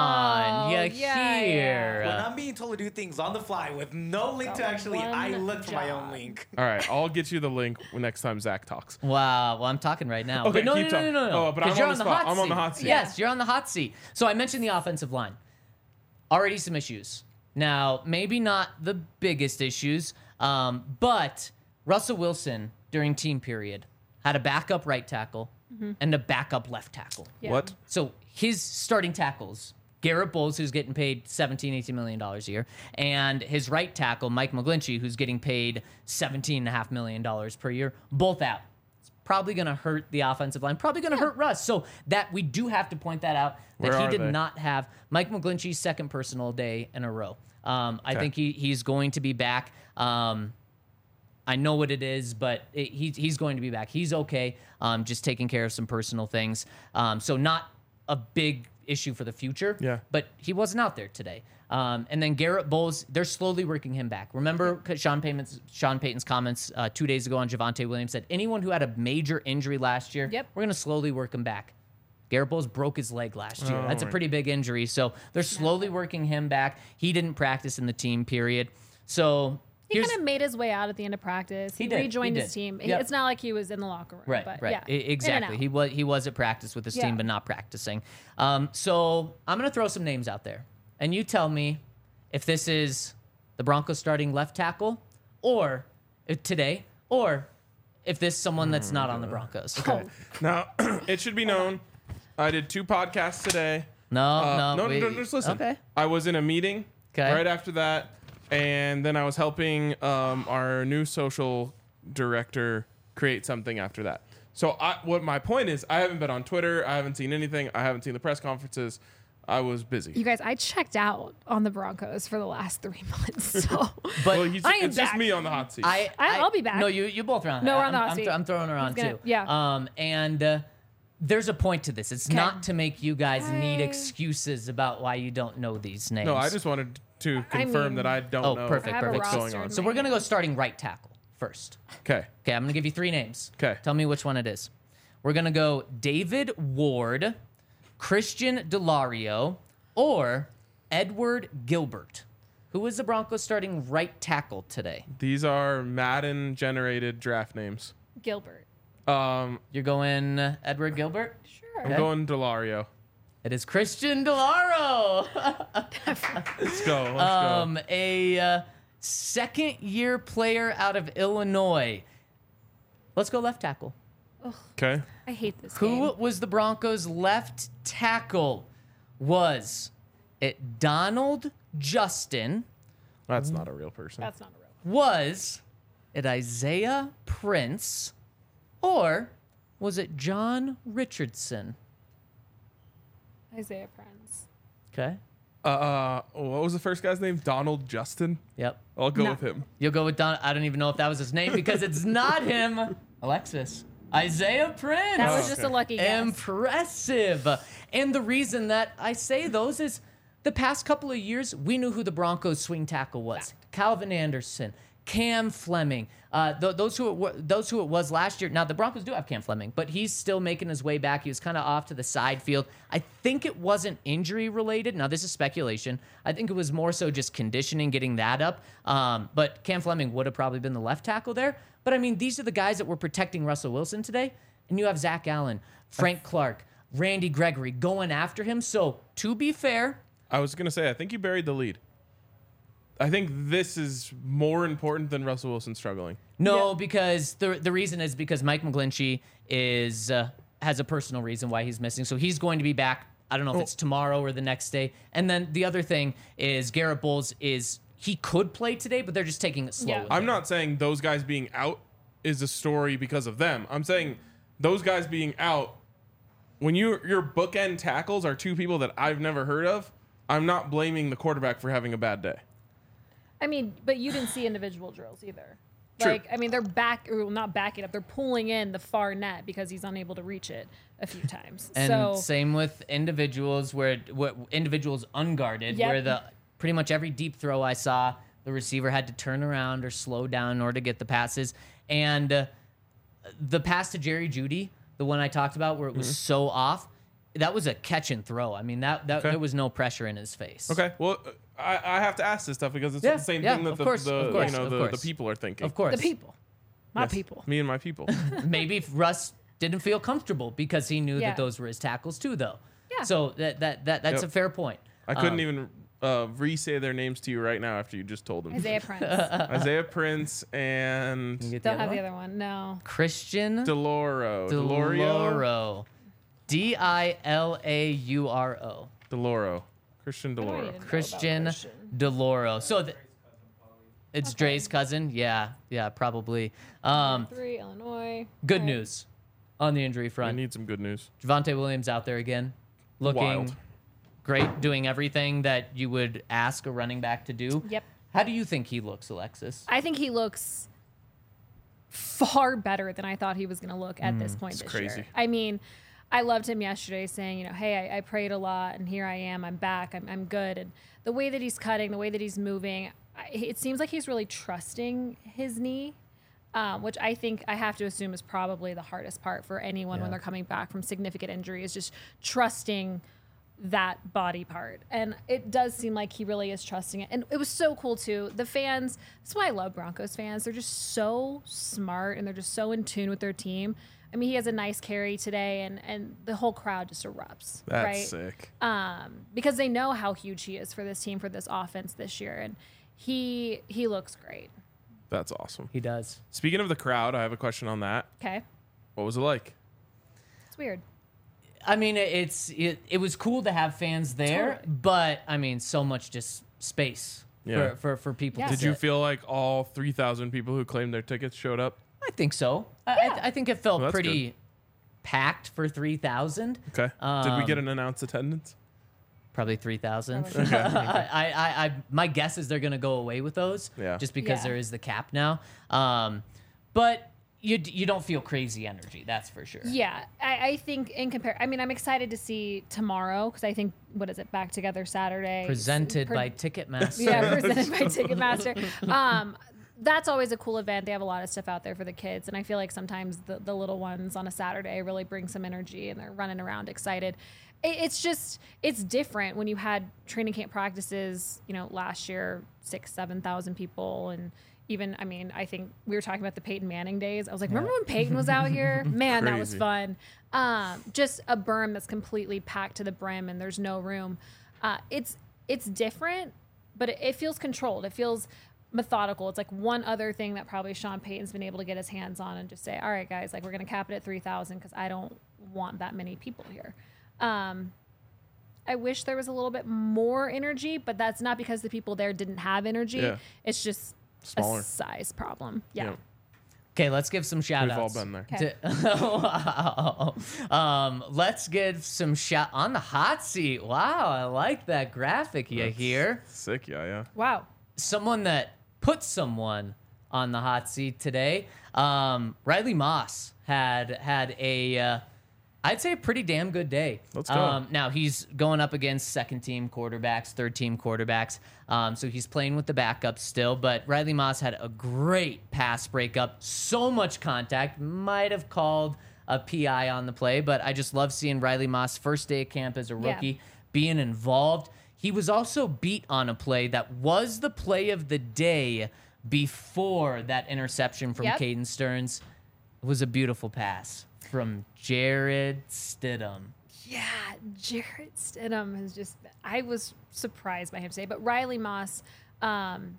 on, Oh, you yeah, here. When I'm being told to do things on the fly with no link to Got actually, one I look for my own job. link. All right, I'll get you the link next time Zach talks. Wow. Well, I'm talking right now. Okay, but no, keep no, no, no, no, talking. no. Oh, but 'Cause I'm you're on the spot. I'm on the hot seat. Yes, you're on the hot seat. So I mentioned the offensive line. Already some issues. Now, maybe not the biggest issues, um, but Russell Wilson during team period had a backup right tackle, and a backup left tackle. Yeah. What? So his starting tackles, Garrett Bowles, who's getting paid seventeen, eighteen million dollars a year, and his right tackle, Mike McGlinchey, who's getting paid seventeen and a half million dollars per year, both out. It's probably going to hurt the offensive line, probably going to hurt Russ. So that we do have to point that out, that Where he are did they? not have Mike McGlinchey's second personal day in a row. Um, I Okay. think he, he's going to be back. Um, I know what it is, but it, he, he's going to be back. He's okay, um, just taking care of some personal things. Um, so not a big issue for the future. Yeah. But he wasn't out there today. Um, and then Garrett Bowles, they're slowly working him back. Remember Sean Payton's, Sean Payton's comments uh, two days ago on Javonte Williams said, anyone who had a major injury last year, Yep. we're going to slowly work him back. Garrett Bowles broke his leg last year. Oh, That's a right. pretty big injury. So they're slowly working him back. He didn't practice in the team period. So He here's kind of made his way out at the end of practice. He, He did, he rejoined his did. team. Yep. It's not like he was in the locker room. Right, but right, yeah, E- in and exactly. out. He was he was at practice with his Yeah. team, but not practicing. Um, so I'm gonna throw some names out there, and you tell me if this is the Broncos starting left tackle, or if today, or if this is someone that's not on the Broncos. Okay. Now, it should be known, I did two podcasts today. No, Uh, no, no, we- no, just listen. Okay. I was in a meeting 'Kay. right after that, and then I was helping um, our new social director create something after that. So, I, what my point is, I haven't been on Twitter. I haven't seen anything. I haven't seen the press conferences. I was busy. You guys, I checked out on the Broncos for the last three months. So But well, he's, I am it's just back. me on the hot seat. I, I- I'll be back. No, you you both are on. No, we're on I'm, the hot I'm, seat. I'm throwing her on gonna- too. yeah. Um, and uh, there's a point to this. It's Okay. not to make you guys need I- excuses about why you don't know these names. no, I just wanted to I confirm mean- that I don't Oh, know perfect, I have a perfect. what's going roster on. in So my we're gonna go hand. starting right tackle first. Okay. Okay, I'm gonna give you three names. 'Kay. Tell me which one it is. We're gonna go David Ward, Christian Delario, or Edward Gilbert. Who is the Broncos starting right tackle today? These are Madden generated draft names. Gilbert. Um, You're going uh, Edward Gilbert? Sure. I'm going Delario. It is Christian Delaro. Let's go. Let's um, a uh, second year player out of Illinois. Let's go left tackle. go. Okay. I hate this Who game. was the Broncos' left tackle? Was it Donald Justin? That's not a real person. That's not a real. Was it Isaiah Prince? Or was it John Richardson? Isaiah Prince. Okay. Uh, what was the first guy's name? Donald Justin. Yep. I'll go No. with him. You'll go with Don. I don't even know if that was his name because it's not him. Alexis. Isaiah Prince. That Oh, was just okay. a lucky guess. Impressive. And the reason that I say those is the past couple of years, we knew who the Broncos swing tackle was. Calvin Anderson, Cam Fleming, uh, th- those who it wa- those who it was last year. Now the Broncos do have Cam Fleming, but he's still making his way back. He was kind of off to the side field. I think it wasn't injury related. Now this is speculation. I think it was more so just conditioning, getting that up. Um, but Cam Fleming would have probably been the left tackle there. But I mean, these are the guys that were protecting Russell Wilson today, and you have Zach Allen, Frank Clark, Randy Gregory going after him. So to be fair, I was gonna say, I think you buried the lead. I think this is more important than Russell Wilson struggling. no, Yeah. because the the reason is because Mike McGlinchey is uh, has a personal reason why he's missing. So he's going to be back. I don't know if it's tomorrow or the next day. And then the other thing is Garrett Bowles is he could play today, but they're just taking it slow. Yeah. with I'm him. not saying those guys being out is a story because of them. I'm saying those guys being out, when you your bookend tackles are two people that I've never heard of, I'm not blaming the quarterback for having a bad day. I mean, but you didn't see individual drills either. True. Like, I mean, they're back, or not backing up. They're pulling in the far net because he's unable to reach it a few times. And so same with individuals where, where individuals unguarded, Yep. where the pretty much every deep throw I saw, the receiver had to turn around or slow down in order to get the passes. And uh, the pass to Jerry Jeudy, the one I talked about where it was Mm-hmm. so off, that was a catch and throw. I mean, that, that Okay. there was no pressure in his face. Okay, well, I, I have to ask this stuff because it's Yeah, the same yeah, thing that of the, course, the of course, you know of the, course. the people are thinking. Of course. the people, my Yes, people. me and my people. Maybe if Russ didn't feel comfortable because he knew Yeah. that those were his tackles too, though. Yeah. So that that, that that's Yep. a fair point. I couldn't Um, even uh, re-say their names to you right now after you just told them. Isaiah Prince. Isaiah Prince and You get Don't the have other the one? other one. No. Christian Deloro. Delorio. Deloro. D I L A U R O. Deloro. Christian I don't Deloro. even know about Christian Christian. Deloro. So th- it's Okay. Dre's cousin. Yeah, yeah, probably. Um, Three, Illinois. good All right. news on the injury I front. need some good news. Javonte Williams out there again, looking Wild. great, doing everything that you would ask a running back to do. Yep. How do you think he looks, Alexis? I think he looks far better than I thought he was going to look at this point it's this crazy. year. I mean, I loved him yesterday saying, you know, hey, I, I prayed a lot and here I am. I'm back. I'm, I'm good. And the way that he's cutting, the way that he's moving, I, it seems like he's really trusting his knee, um, which I think I have to assume is probably the hardest part for anyone when Yeah. they're coming back from significant injury is just trusting that body part. And it does seem like he really is trusting it. And it was so cool too. The fans, that's why I love Broncos fans. They're just so smart and they're just so in tune with their team. I mean, he has a nice carry today and, and the whole crowd just erupts. That's right? sick. Um, because they know how huge he is for this team, for this offense this year. And he he looks great. That's awesome. He does. Speaking of the crowd, I have a question on that. Okay. What was it like? It's weird. I mean, it- it's it, it was cool to have fans there, Totally. but I mean, so much just space Yeah. for, for, for people Yeah. to Did you sit. feel like all three thousand people who claimed their tickets showed up? I think so. I, Yeah. I, I think it felt Well, that's pretty packed for three thousand. Okay. Did we get Um, an announced attendance? Probably three thousand. Probably. I, I, I, my guess is they're going to go away with those, Yeah. just because Yeah. there is the cap now. Um, but you d- you don't feel crazy energy, that's for sure. Yeah, I, I think in compare, I mean, I'm excited to see tomorrow because I think what is it, Back Together Saturday, Presented Pre- by Ticketmaster. yeah, presented by Ticketmaster. Um, that's always a cool event. They have a lot of stuff out there for the kids, and I feel like sometimes the, the little ones on a Saturday really bring some energy, and they're running around excited. It, it's just it's different when you had training camp practices, you know, last year six, seven thousand people, and even I mean, I think we were talking about the Peyton Manning days. I was like, remember when Peyton was out here? Man, that was Crazy. fun. Um, just a berm that's completely packed to the brim, and there's no room. Uh, it's it's different, but it, it feels controlled. It feels methodical. It's like one other thing that probably Sean Payton's been able to get his hands on and just say, all right, guys, like we're going to cap it at three thousand because I don't want that many people here. Um, I wish there was a little bit more energy, but that's not because the people there didn't have energy. Yeah. It's just Smaller. a size problem. Yeah. Yeah. Okay, let's give some shout We've all outs. been there. Okay. wow. Um, let's give some shout on the hot seat. Wow, I like that graphic you That's hear. Sick, yeah, yeah. Wow. Someone that put someone on the hot seat today. Um, Riley Moss had had a, uh, I'd say a pretty damn good day. Let's go. Um, now he's going up against second team quarterbacks, third team quarterbacks. Um, so he's playing with the backups still. But Riley Moss had a great pass breakup, so much contact. Might have called a P I on the play, but I just love seeing Riley Moss first day of camp as a Yeah. rookie being involved. He was also beat on a play that was the play of the day before that interception from Yep. Caden Stearns. It was a beautiful pass from Jared Stidham. Yeah, Jarrett Stidham has just, I was surprised by him today. But Riley Moss, um,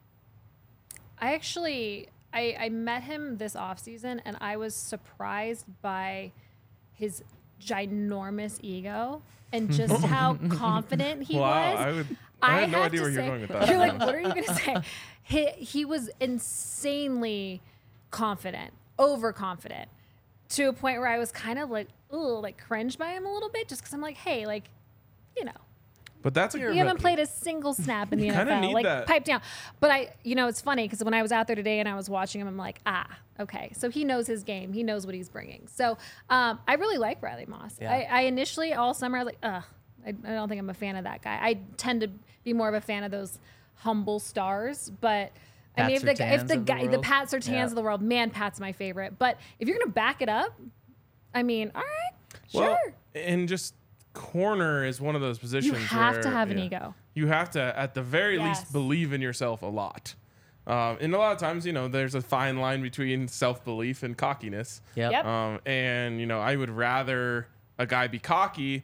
I actually, I, I met him this offseason and I was surprised by his ginormous ego and just how confident he wow, was. I would. I, had no have idea to where you're say- going with that. You're like, what are you going to say? He, he was insanely confident, overconfident, to a point where I was kind of like, ooh, like cringed by him a little bit, just because I'm like, hey, like, you know, But that's a you haven't played a single snap in the N F L. Kinda need Like, that. pipe down. But I, you know, it's funny because when I was out there today and I was watching him, I'm like, ah, okay. So he knows his game. He knows what he's bringing. So um, I really like Riley Moss. Yeah. I, I initially all summer I was like, ugh, I, I don't think I'm a fan of that guy. I tend to be more of a fan of those humble stars, but. I mean, if Pat the, if Surtains the of the guy, the world. Pat Surtains Yeah. of the world, man, Pat's my favorite. But if you're gonna back it up, I mean, all right, Well, sure. and just corner is one of those positions. You have to where, have an yeah, ego. You have to, at the very Yes. least, believe in yourself a lot. Um, and a lot of times, you know, there's a fine line between self-belief and cockiness. Yep. Yep. Um, and you know, I would rather a guy be cocky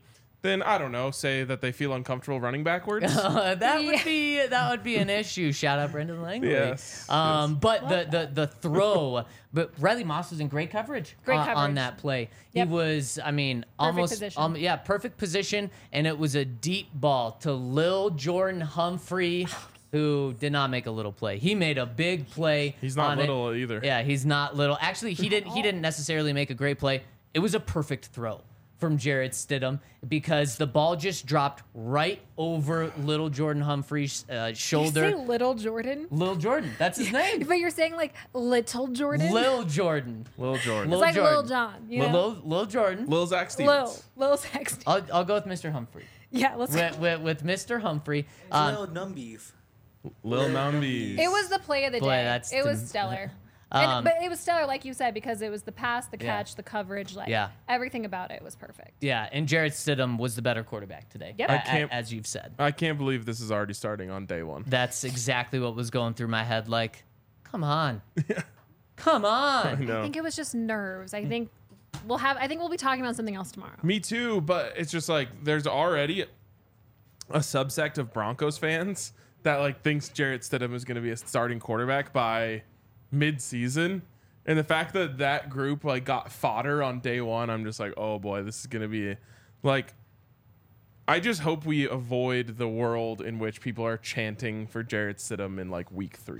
then I don't know, say that they feel uncomfortable running backwards. Uh, that would Yeah. be that would be an issue. Shout out Brendan Langley. Yes, Um, yes. but the, the the throw, but Riley Moss was in great coverage, Great on, on coverage. that play. Yep. He was, I mean, almost, position. um, yeah, perfect position, and it was a deep ball to Lil Jordan Humphrey, who did not make a little play. He made a big play. He's not on it. little either. Yeah, he's not little. Actually, he didn't. He didn't necessarily make a great play. It was a perfect throw from Jarrett Stidham because the ball just dropped right over little Jordan Humphrey's uh, You shoulder. say little Jordan, Lil Jordan, that's his name. but you're saying like little Jordan. Lil Jordan. Lil Jordan. Lil It's like Jordan. Lil John, you Lil, know? Lil, Lil Jordan. Lil Zach Lil, Stevens. Lil Sexton. I'll, I'll go with Mister Humphrey. Yeah, let's go. With, with, with Mister Humphrey. Um, Little numbies. Lil Numbies. It was the play of the Boy, day. that's It was the- stellar. Um, and, but it was stellar, like you said, because it was the pass, the Yeah. catch, the coverage, like Yeah. everything about it was perfect. yeah, and Jarrett Stidham was the better quarterback today, Yep. a- I a- can't- as you've said. I can't believe this is already starting on day one. That's exactly what was going through my head. Like, come on. Come on. No. I think it was just nerves. I think we'll have. I think we'll be talking about something else tomorrow. Me too, but it's just like there's already a subsect of Broncos fans that like thinks Jarrett Stidham is going to be a starting quarterback by mid-season, and the fact that that group like got fodder on day one, I'm just like, oh boy, this is going to be like. I just hope we avoid the world in which people are chanting for Jarrett Stidham in like week three.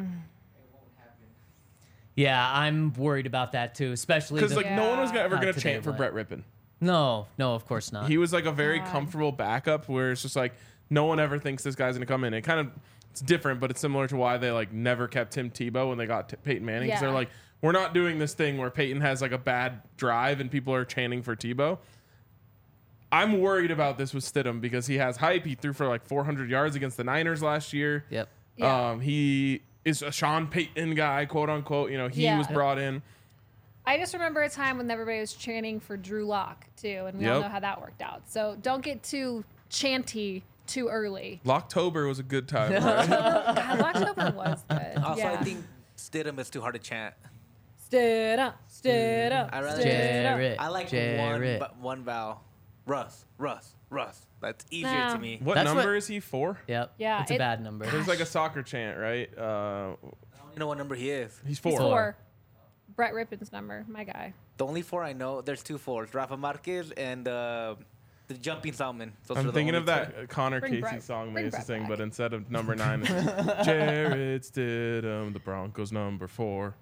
Yeah, I'm worried about that too, especially Because the- like no one was gonna, ever Not going to today, chant for but- Brett Rippon. No, no, of course not. He was like a very God. comfortable backup where it's just like no one ever thinks this guy's gonna come in. It kind of it's different, but it's similar to why they like never kept Tim Tebow when they got t- Peyton Manning because Yeah. they're like we're not doing this thing where Peyton has like a bad drive and people are chanting for Tebow. I'm worried about this with Stidham because he has hype. He threw for like four hundred yards against the Niners last year. Yep. Yeah. Um, he is a Sean Payton guy, quote unquote. You know, he Yeah. was brought in. I just remember a time when everybody was chanting for Drew Lock too, and we all Yep. know how that worked out. So don't get too chanty too early. Locktober was a good time. right? God, October was good. Also, yeah. I think Stidham is too hard to chant. stood up, stood up, I rather stood Jarrett. I like Jarrett. one, bu- one vowel. Russ, Russ, Russ. That's easier Nah. to me. What That's number what- is he for? Yep. Yeah, It's a it- bad number. There's like a soccer chant, right? Uh, I don't even know what number he is. he's He's four. four. Brett Rippon's number, my guy. The only four I know, there's two fours. Rafa Marquez and uh, the Jumping Salmon. Those are I'm the thinking only of that two. uh, Connor Bring Casey Brett- song they bring used to Brett sing, back. but instead of number nine, it's Jared Stidham, the Broncos number four.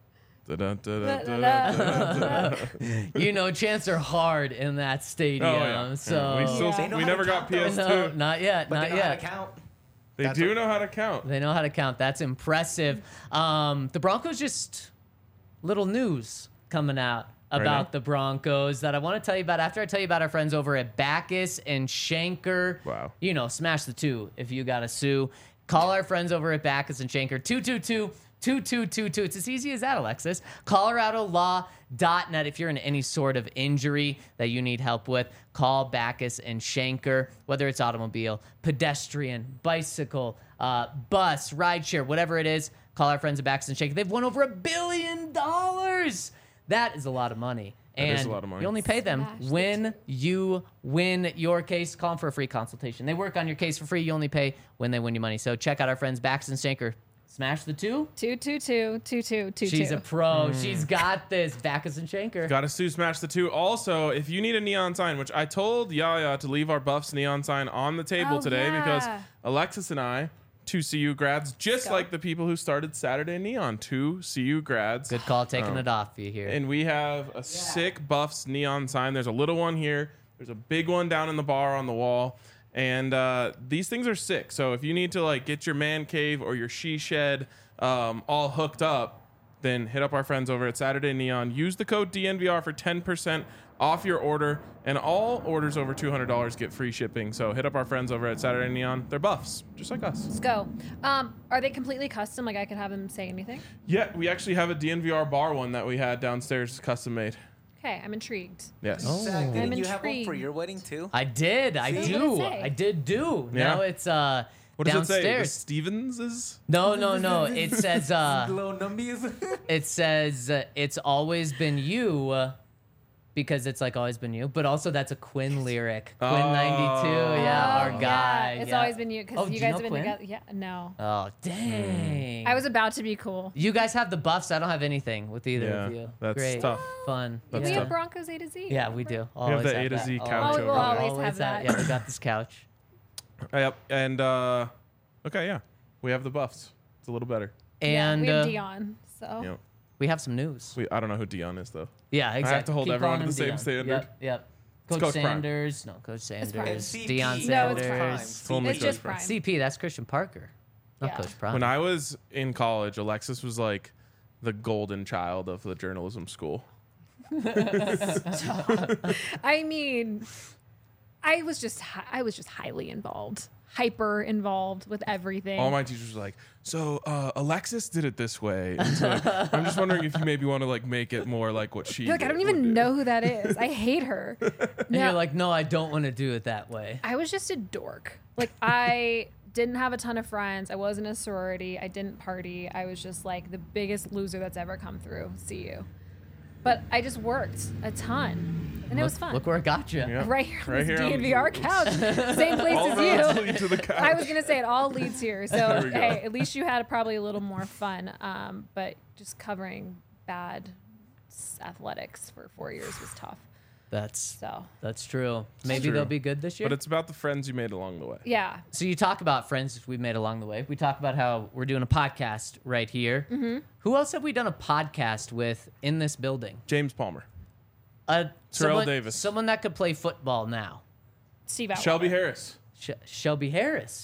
Da-da-da-da-da-da-da. You know, chants are hard in that stadium. Oh, yeah. So Yeah. We, still, Yeah. They know we how to never got count, though. P S two. no, not yet. But not they know yet. how to count. They That's do what- know how to count. They know how to count. That's impressive. Um, the Broncos just little news coming out Right about now? the Broncos that I want to tell you about after I tell you about our friends over at Bacchus and Shanker. Wow. You know, smash the two if you got to sue. Call our friends over at Bacchus and Shanker, two two two, two two two two. It's as easy as that, Alexis. Colorado Law dot net. If you're in any sort of injury that you need help with, call Bacchus and Shanker, whether it's automobile, pedestrian, bicycle, uh, bus, rideshare, whatever it is. Call our friends at Bacchus and Shanker. They've won over a billion dollars. That is a lot of money. That And is a lot of money. you only pay them Smash the when you win your case. Call them for a free consultation. They work on your case for free. You only pay when they win you money. So check out our friends Bacchus and Shanker. Smash the two. Two, two, two, two, two, two, She's two. a pro. She's got this. Bacchus and Shanker. Got to sue smash the two. Also, if you need a neon sign, which I told Yaya to leave our Buffs neon sign on the table Oh, today because yeah. Alexis and I, two C U grads, just go. like the people who started Saturday Neon, two C U grads. Good call taking Um, it off you here. And we have a sick Buffs neon sign. There's a little one here. There's a big one down in the bar on the wall. And uh, these things are sick. So if you need to like get your man cave or your she shed um, all hooked up, then hit up our friends over at Saturday Neon. Use the code D N V R for ten percent off your order. And all orders over two hundred dollars get free shipping. So hit up our friends over at Saturday Neon. They're Buffs, just like us. Let's go. Um, are they completely custom? Like I could have them say anything? Yeah, we actually have a D N V R bar one that we had downstairs custom made. Okay, I'm intrigued. Yes. Oh. Zach, didn't I'm you have one for intrigued. your wedding too? I did. I See? do. What did it say? I did do. Yeah. Now it's uh What does downstairs. it say? The Stevens is? No, no, no. It says uh Little numbies. it says uh, it's always been you. Uh, because it's like always been you, but also that's a Quinn lyric. Quinn Oh. ninety-two, yeah, our Oh, guy. Yeah, it's yeah. always been you because Oh, you do you guys know have been Quinn? together. Yeah, no. Oh, dang. I was about to be cool. You guys have the buffs. I don't have anything with either Yeah, of you. that's Great. tough. Fun. That's we yeah. have Broncos A to Z. Yeah, we do. have Always the A to that. Z Always. couch over We'll there. always have that. Yeah, we got this couch. Yep. And uh, okay, yeah, we have the buffs. It's a little better. Yeah, And we have uh, Dion. So Yep. we have some news. We, I don't know who Dion is though. Yeah, exactly. to hold Keep everyone calling to the him same Deion. standard. Yep, yep. Coach, Coach Prime. Sanders. No, Coach Sanders. Prime. C P. Deion No, it's Sanders. Prime. Only it's just Prime. Prime. C P, that's Christian Parker. Not Yeah. Coach Prime. When I was in college, Alexis was like the golden child of the journalism school. I mean, I was just hi- I was just highly involved, hyper involved with everything. All my teachers were like, "So uh, Alexis did it this way." And so, like, I'm just wondering if you maybe want to like make it more like what she. You're like, I did- don't would even do." know who that is. I hate her. and No, you're like, no, I don't want to do it that way. I was just a dork. Like I didn't have a ton of friends. I wasn't a sorority. I didn't party. I was just like the biggest loser that's ever come through C U. But I just worked a ton, and it was Look- fun. Look where it got you. Yeah. Right here on Right this here on D N V the- R couch, same place All as roads you. lead to the couch. I was gonna say it all leads here. So There we go. hey, at least you had probably a little more fun. Um, but just covering bad s- athletics for four years was tough. That's So that's true. Maybe true. they'll be good this year. But it's about the friends you made along the way. yeah, So you talk about friends we've made along the way. We talk about how we're doing a podcast right here. Mm-hmm. Who else have we done a podcast with in this building? James Palmer, Uh, someone, Davis. Someone that could play football now. Steve Atwater. Shelby Harris. Sh- Shelby Harris.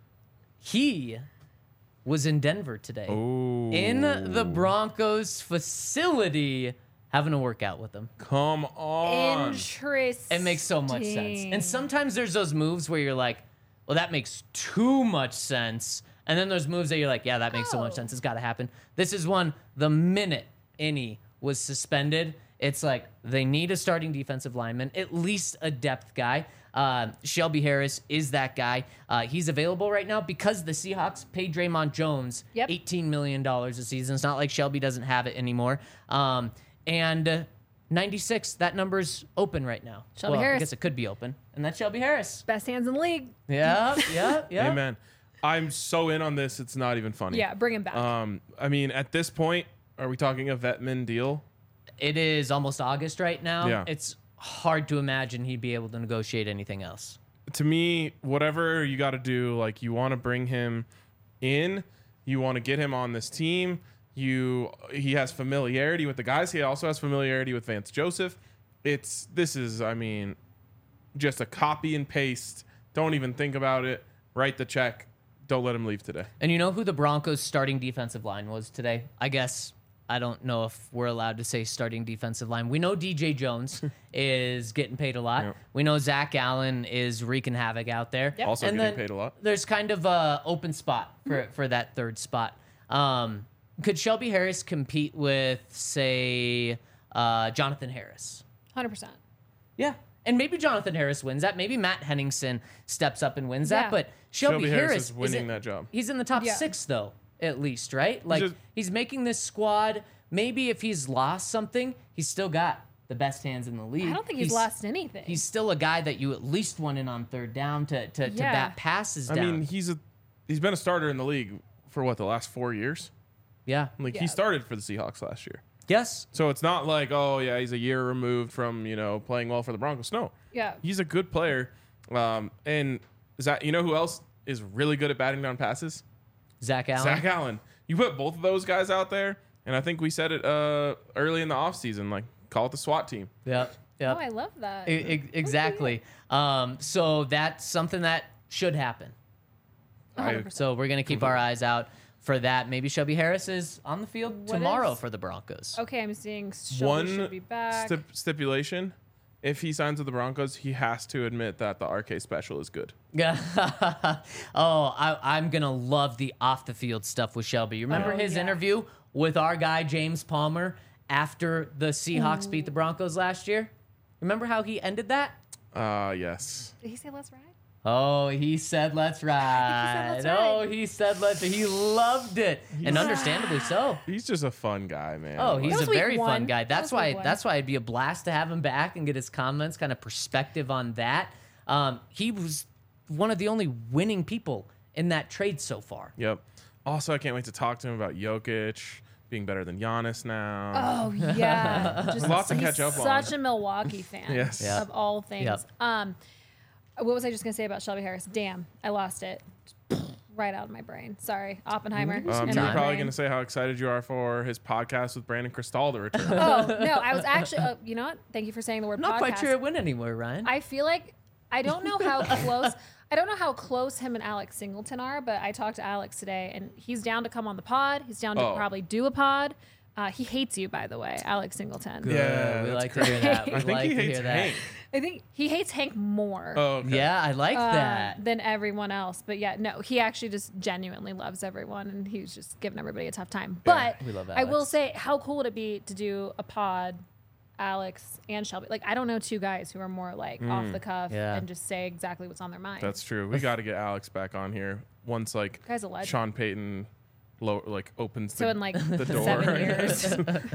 He was in Denver today. Oh, In the Broncos facility, having a workout with them. come on. Interesting. It makes so much sense. And sometimes there's those moves where you're like, well, that makes too much sense. And then there's moves that you're like, yeah, that makes so much Oh. sense. It's got to happen. This is one, the minute Innie was suspended, it's like they need a starting defensive lineman, at least a depth guy. Uh, Shelby Harris is that guy. Uh, he's available right now because the Seahawks paid Draymond Jones Yep. eighteen million dollars a season. It's not like Shelby doesn't have it anymore. Um, and uh, ninety-six, that number's open right now. Shelby well, I Harris. guess it could be open. And that's Shelby Harris. Best hands in the league. Yeah, yeah, yeah. Amen. I'm so in on this. It's not even funny. Yeah, bring him back. Um, I mean, at this point, are we talking a Vetman deal? It is almost August right now. Yeah. It's hard to imagine he'd be able to negotiate anything else. To me, whatever you got to do, like you want to bring him in, you want to get him on this team. You, he has familiarity with the guys. He also has familiarity with Vance Joseph. It's this is, I mean, just a copy and paste. Don't even think about it. Write the check. Don't let him leave today. And you know who the Broncos' starting defensive line was today? I guess I don't know if we're allowed to say starting defensive line. We know D J Jones is getting paid a lot. Yep. We know Zach Allen is wreaking havoc out there. Yep. Also And getting then paid a lot. There's kind of a open spot for, for that third spot. Um, could Shelby Harris compete with, say, uh, Jonathan Harris? one hundred percent. Yeah. And maybe Jonathan Harris wins that. Maybe Matt Henningsen steps up and wins Yeah. that. But Shelby, Shelby Harris Harris is winning in- that job. He's in the top Yeah. six, though, at least, right? Like, just- he's making this squad. Maybe if he's lost something, he's still got the best hands in the league. I don't think he's, lost anything. He's still a guy that you at least want in on third down to, to, to Yeah. bat passes I down. mean, he's a he's been a starter in the league for what the last four years. yeah. Like Yeah. he started for the Seahawks last year. Yes. So it's not like, oh yeah, he's a year removed from, you know, playing well for the Broncos. No. yeah. He's a good player. Um, and is that you know who else is really good at batting down passes? Zach Allen. Zach Allen. You put both of those guys out there, and I think we said it uh, early in the offseason, like call it the SWAT team. Yep. Yep. Oh, I love that. E- e- exactly. Um, so that's something that should happen. one hundred percent. So we're going to keep our eyes out for that. Maybe Shelby Harris is on the field What tomorrow is- for the Broncos. Okay, I'm seeing Shelby One should be back. stip- stipulation. If he signs with the Broncos, he has to admit that the R K special is good. Yeah. oh, I, I'm going to love the off the field stuff with Shelby. You remember Oh, his yeah. interview with our guy, James Palmer, after the Seahawks beat the Broncos last year? Remember how he ended that? Uh yes. Did he say let's ride? Oh, he said let's ride. let's Oh, ride. he said let's. He loved it, and understandably so. He's just a fun guy, man. Oh, he's That a was week very fun one. guy. That That's was why. week one. That's why it'd be a blast to have him back and get his comments, kind of perspective on that. Um, he was one of the only winning people in that trade so far. Yep. Also, I can't wait to talk to him about Jokic being better than Giannis now. Oh yeah, just Lots to he's catch up on. Such a Milwaukee fan. Yes. Yep. Of all things. Yep. Um, what was I just gonna say about Shelby Harris? Damn, I lost it. Right out of my brain. Sorry, Oppenheimer. Um, in you're my probably brain. going to say how excited you are for his podcast with Brandon Cristal to return. Oh no, I was actually. Oh, you know what? Thank you for saying the word I'm not podcast. quite sure it went anywhere, Ryan. I feel like I don't know how close. I don't know how close him and Alex Singleton are, but I talked to Alex today, and he's down to come on the pod. He's down to Oh. probably do a pod. Uh, he hates you, by the way, Alex Singleton. Good. Yeah, we that's like to hear that. We I think like he to hates hear that. Hank. I think he hates Hank more. Oh, okay. Yeah, I like uh, that. than everyone else. But yeah, no, he actually just genuinely loves everyone, and he's just giving everybody a tough time. Yeah. But We love I will Alex. say, how cool would it be to do a pod, Alex and Shelby? Like, I don't know two guys who are more like off the cuff Yeah. and just say exactly what's on their mind. That's true. We got to get Alex back on here once, like, Guy's a legend. Sean Payton lo- like opens So the, in like the door. seven years.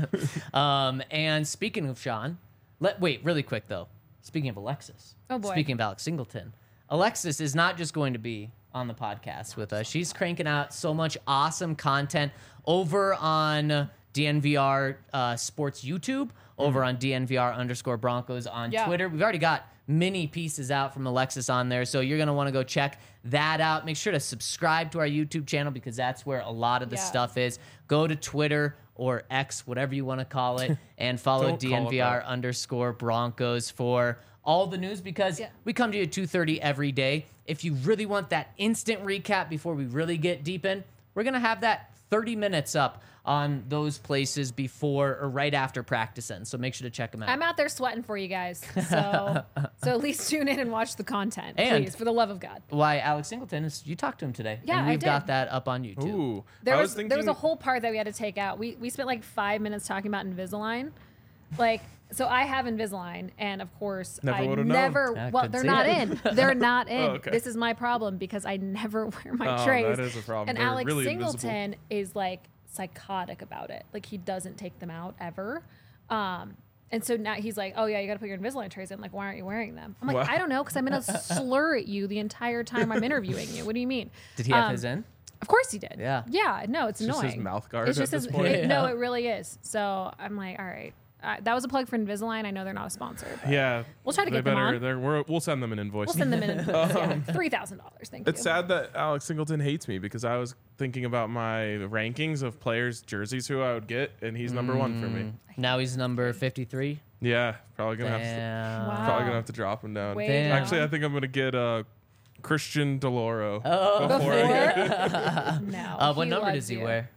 Um, and speaking of Sean, let wait really quick though. Speaking of Alexis, Oh, boy. Speaking of Alex Singleton, Alexis is not just going to be on the podcast with us. She's cranking out so much awesome content over on D N V R uh, Sports YouTube, over on D N V R underscore Broncos on Yeah. Twitter. We've already got many pieces out from Alexis on there, so you're gonna want to go check that out. Make sure to subscribe to our YouTube channel because that's where a lot of the Yeah. stuff is. Go to Twitter or X, whatever you want to call it, and follow Don't call it DNVR that. underscore Broncos for all the news because Yeah. we come to you at two thirty every day. If you really want that instant recap before we really get deep in, we're going to have that thirty minutes up on those places before or right after practice ends. So make sure to check them out. I'm out there sweating for you guys. So so at least tune in and watch the content, And- please, for the love of God. Why Alex Singleton is you talked to him today. Yeah, and I we've got did. that up on YouTube. Ooh. There I was, was thinking there was a whole part that we had to take out. We we spent like five minutes talking about Invisalign. Like, so I have Invisalign, and of course, Never I would've known. never. Yeah, well, couldn't they're see not it. in. They're not in. Oh, okay. This is my problem because I never wear my Oh, trays. that is a problem. And They're Alex really Singleton is like psychotic about it. Like he doesn't take them out ever. Um, and so now he's like, "Oh yeah, you got to put your Invisalign trays in. Like, why aren't you wearing them?" I'm like, Wow. "I don't know, because I'm gonna slur at you the entire time I'm interviewing you. What do you mean?" Did he have Um, his in? Of course he did. Yeah. Yeah. No, it's It's just annoying. his mouth guard It's at just this his. point. it- No, Yeah. it really is. So I'm like, all right. Uh, that was a plug for Invisalign. I know they're not a sponsor. But Yeah. We'll try to they get them better, on. they're- we're, we'll send them an invoice. We'll send them in. yeah, three thousand dollars. Thank It's you. sad that Alex Singleton hates me because I was thinking about my rankings of players' jerseys who I would get, and he's number one for me. Now he's number fifty-three. Yeah, probably gonna have to, Damn. Wow. probably gonna have to drop him down. Way Damn. down. Actually, I think I'm gonna get uh, Christian DeLoro. Oh. before I get- Before? no. Uh, what he number loves does he you. wear?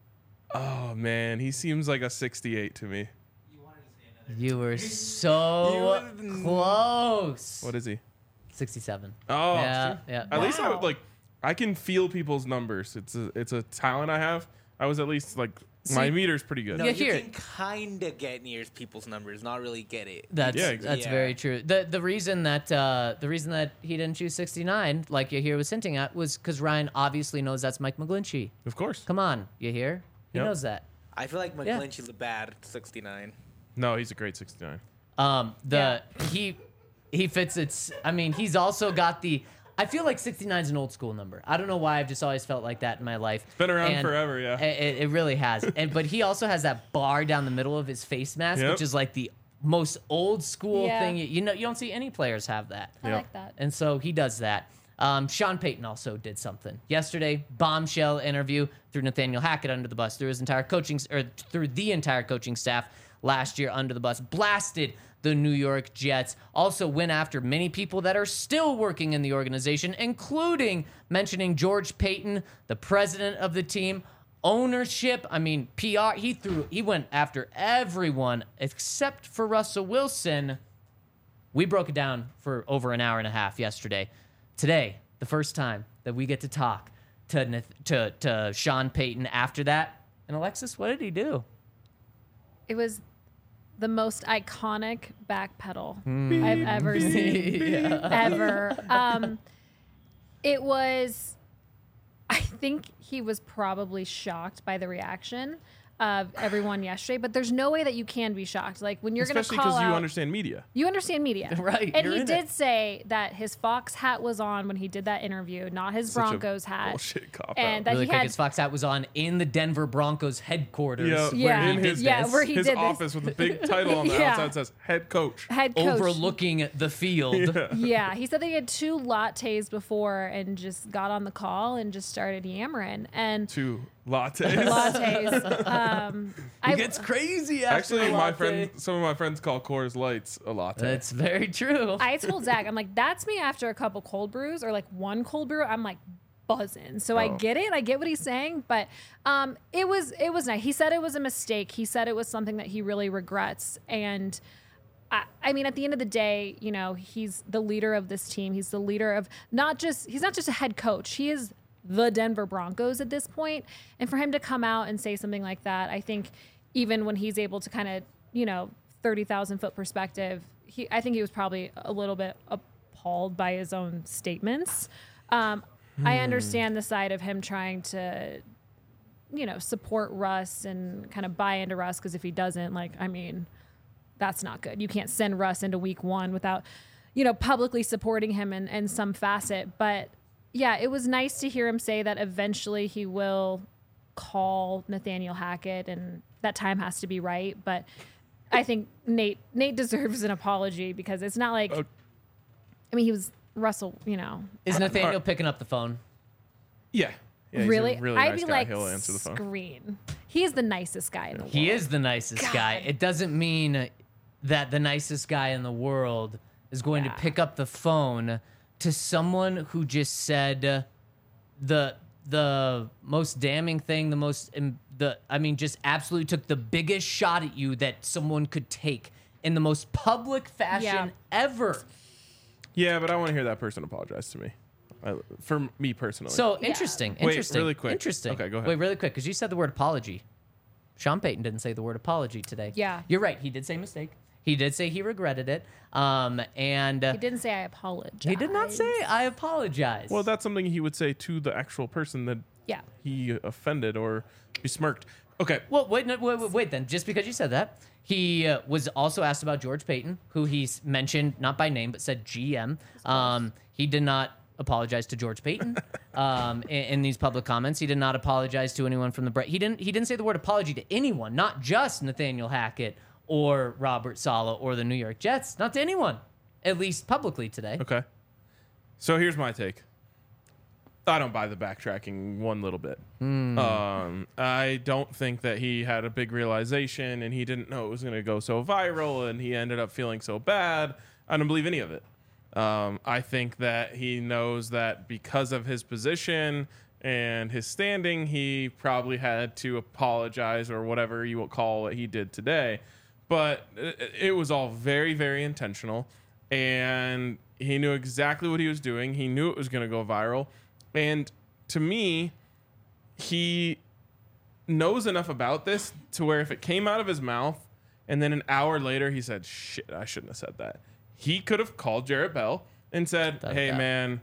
Oh man, he seems like a sixty-eight to me. You were so close. What is he? sixty-seven. Oh, Yeah, see? yeah. At least I Wow. would, like I can feel people's numbers. It's a it's a talent I have. I was at least like my See- meter's pretty good. No, Yeah, you here. can kind of get near people's numbers, not really get it. That's Yeah, exactly. that's Yeah. very true. The the reason that uh, the reason that he didn't choose sixty-nine, like you hear was hinting at, was because Ryan obviously knows that's Mike McGlinchey. Of course. Come on, you hear? He Yep. knows that. I feel like Yeah. McGlinchey's a bad sixty-nine. No, he's a great sixty-nine. Um, the he he fits its. I mean, he's also got the. I feel like sixty-nine is an old school number. I don't know why. I've just always felt like that in my life. It's been around forever, yeah. It, it really has. and but he also has that bar down the middle of his face mask, Yep. which is like the most old school Yeah. thing. You, you know, you don't see any players have that. I Yep. like that. And so he does that. Um, Sean Payton also did something yesterday. Bombshell interview, threw Nathaniel Hackett under the bus, through his entire coaching or through the entire coaching staff last year under the bus. Blasted the New York Jets. Also went after many people that are still working in the organization, including mentioning George Payton, the president of the team, ownership. I mean, P R. He threw. He went after everyone except for Russell Wilson. We broke it down for over an hour and a half yesterday. Today, the first time that we get to talk to Nath- to to Sean Payton after that. And Alexis, what did he do? It was the most iconic back pedal Hmm. I've ever seen. Ever. Um, It was, I think he was probably shocked by the reaction of everyone yesterday, but there's no way that you can be shocked. Like when you're going to Especially call because you out, understand media. you understand media. Right, And you're he in did it. say that his Fox hat was on when he did that interview, not his Such a Broncos hat. Bullshit cop And out. that Really he quick, had his Fox hat was on in the Denver Broncos headquarters. Yeah, where Yeah. he in did his, Yeah, this, where he his did this. office with a big title on the Yeah. outside says head coach. head coach. overlooking the field. Yeah, he said that he had two lattes before and just got on the call and just started yammering. And Two lattes. lattes. Um, I, It gets crazy after Actually, a my latte. friends, some of my friends call Coors Lights a latte. That's very true. I told Zach, I'm like, that's me after a couple cold brews or like one cold brew. I'm like buzzing. So I Oh. get it. I get what he's saying, but um, it was it was nice. He said it was a mistake. He said it was something that he really regrets. And I, I mean, at the end of the day, you know, he's the leader of this team. He's the leader of not just he's not just a head coach. He is the Denver Broncos at this point. And for him to come out and say something like that, I think even when he's able to kind of, you know, thirty thousand foot perspective, he, I think he was probably a little bit appalled by his own statements. Um, I understand the side of him trying to, you know, support Russ and kind of buy into Russ, because if he doesn't, like, I mean, that's not good. You can't send Russ into week one without, you know, publicly supporting him in, in some facet. But yeah, it was nice to hear him say that eventually he will call Nathaniel Hackett and that time has to be right. But I think Nate Nate deserves an apology, because it's not like, Oh. I mean, he was Russell, you know, Is Nathaniel picking up the phone? yeah. Yeah, he's a really, really I'd nice be guy. like, He'll answer the phone. screen. He is the nicest guy in the world. He is the nicest guy. God. It doesn't mean that the nicest guy in the world is going Yeah. to pick up the phone to someone who just said the the most damning thing, the most um, the I mean, just absolutely took the biggest shot at you that someone could take in the most public fashion Yeah. ever. Yeah, but I want to hear that person apologize to me. I, for me personally. So interesting. Wait, Interesting. really quick. Interesting. Okay, go ahead. Wait, really quick, because you said the word apology. Sean Payton didn't say the word apology today. Yeah. You're right. He did say mistake. He did say he regretted it. Um, and uh, He didn't say I apologize. he did not say I apologize. well, that's something he would say to the actual person that Yeah. he offended or besmirked. Okay. Well, wait, no, wait, wait, wait. Then, just because you said that, he uh, was also asked about George Payton, who he's mentioned not by name but said G M. Um, he did not apologize to George Payton um, in, in these public comments. He did not apologize to anyone from the Bra- he didn't he didn't say the word apology to anyone, not just Nathaniel Hackett or Robert Saleh or the New York Jets, not to anyone, at least publicly today. Okay. So here's my take. I don't buy the backtracking one little bit. Um, I don't think that he had a big realization and he didn't know it was going to go so viral and he ended up feeling so bad. I don't believe any of it. Um, I think that he knows that because of his position and his standing, he probably had to apologize or whatever you will call what he did today. But it, it was all very, very intentional. And he knew exactly what he was doing. He knew it was going to go viral. And to me, he knows enough about this to where if it came out of his mouth and then an hour later he said, shit, I shouldn't have said that. He could have called Jarrett Bell and said, Done hey, that. man,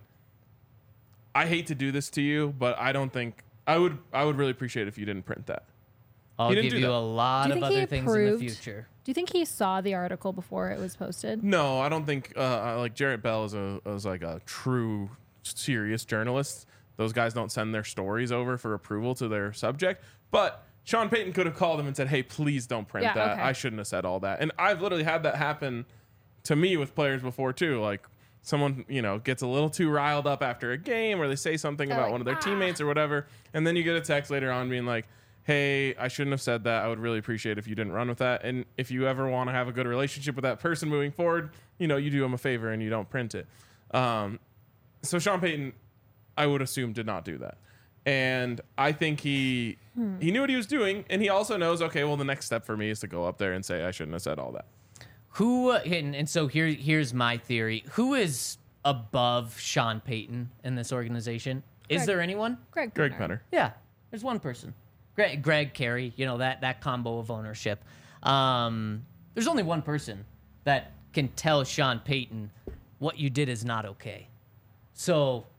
I hate to do this to you, but I don't think I would I would really appreciate it if you didn't print that. I'll He didn't give do you that. a lot Do you of think he other things in the approved? future. Do you think he saw the article before it was posted? No, I don't think uh, like Jarrett Bell is a is like a true serious journalist. Those guys don't send their stories over for approval to their subject. But Sean Payton could have called him and said, "Hey, please don't print Yeah, that. okay. I shouldn't have said all that." And I've literally had that happen to me with players before too. Like someone, you know, gets a little too riled up after a game or they say something They're about like, one of their "Ah." teammates or whatever, and then you get a text later on being like, hey, I shouldn't have said that. I would really appreciate if you didn't run with that. And if you ever want to have a good relationship with that person moving forward, you know, you do them a favor and you don't print it. Um, so Sean Payton, I would assume, did not do that. And I think he Hmm. he knew what he was doing. And he also knows, okay, well, the next step for me is to go up there and say, I shouldn't have said all that. Who uh, and, and so here here's my theory. Who is above Sean Payton in this organization? Is Greg. there anyone? Greg Greg Penner. Penner. Yeah, there's one person. Greg, Greg Carey, you know, that that combo of ownership. Um, there's only one person that can tell Sean Payton what you did is not okay. So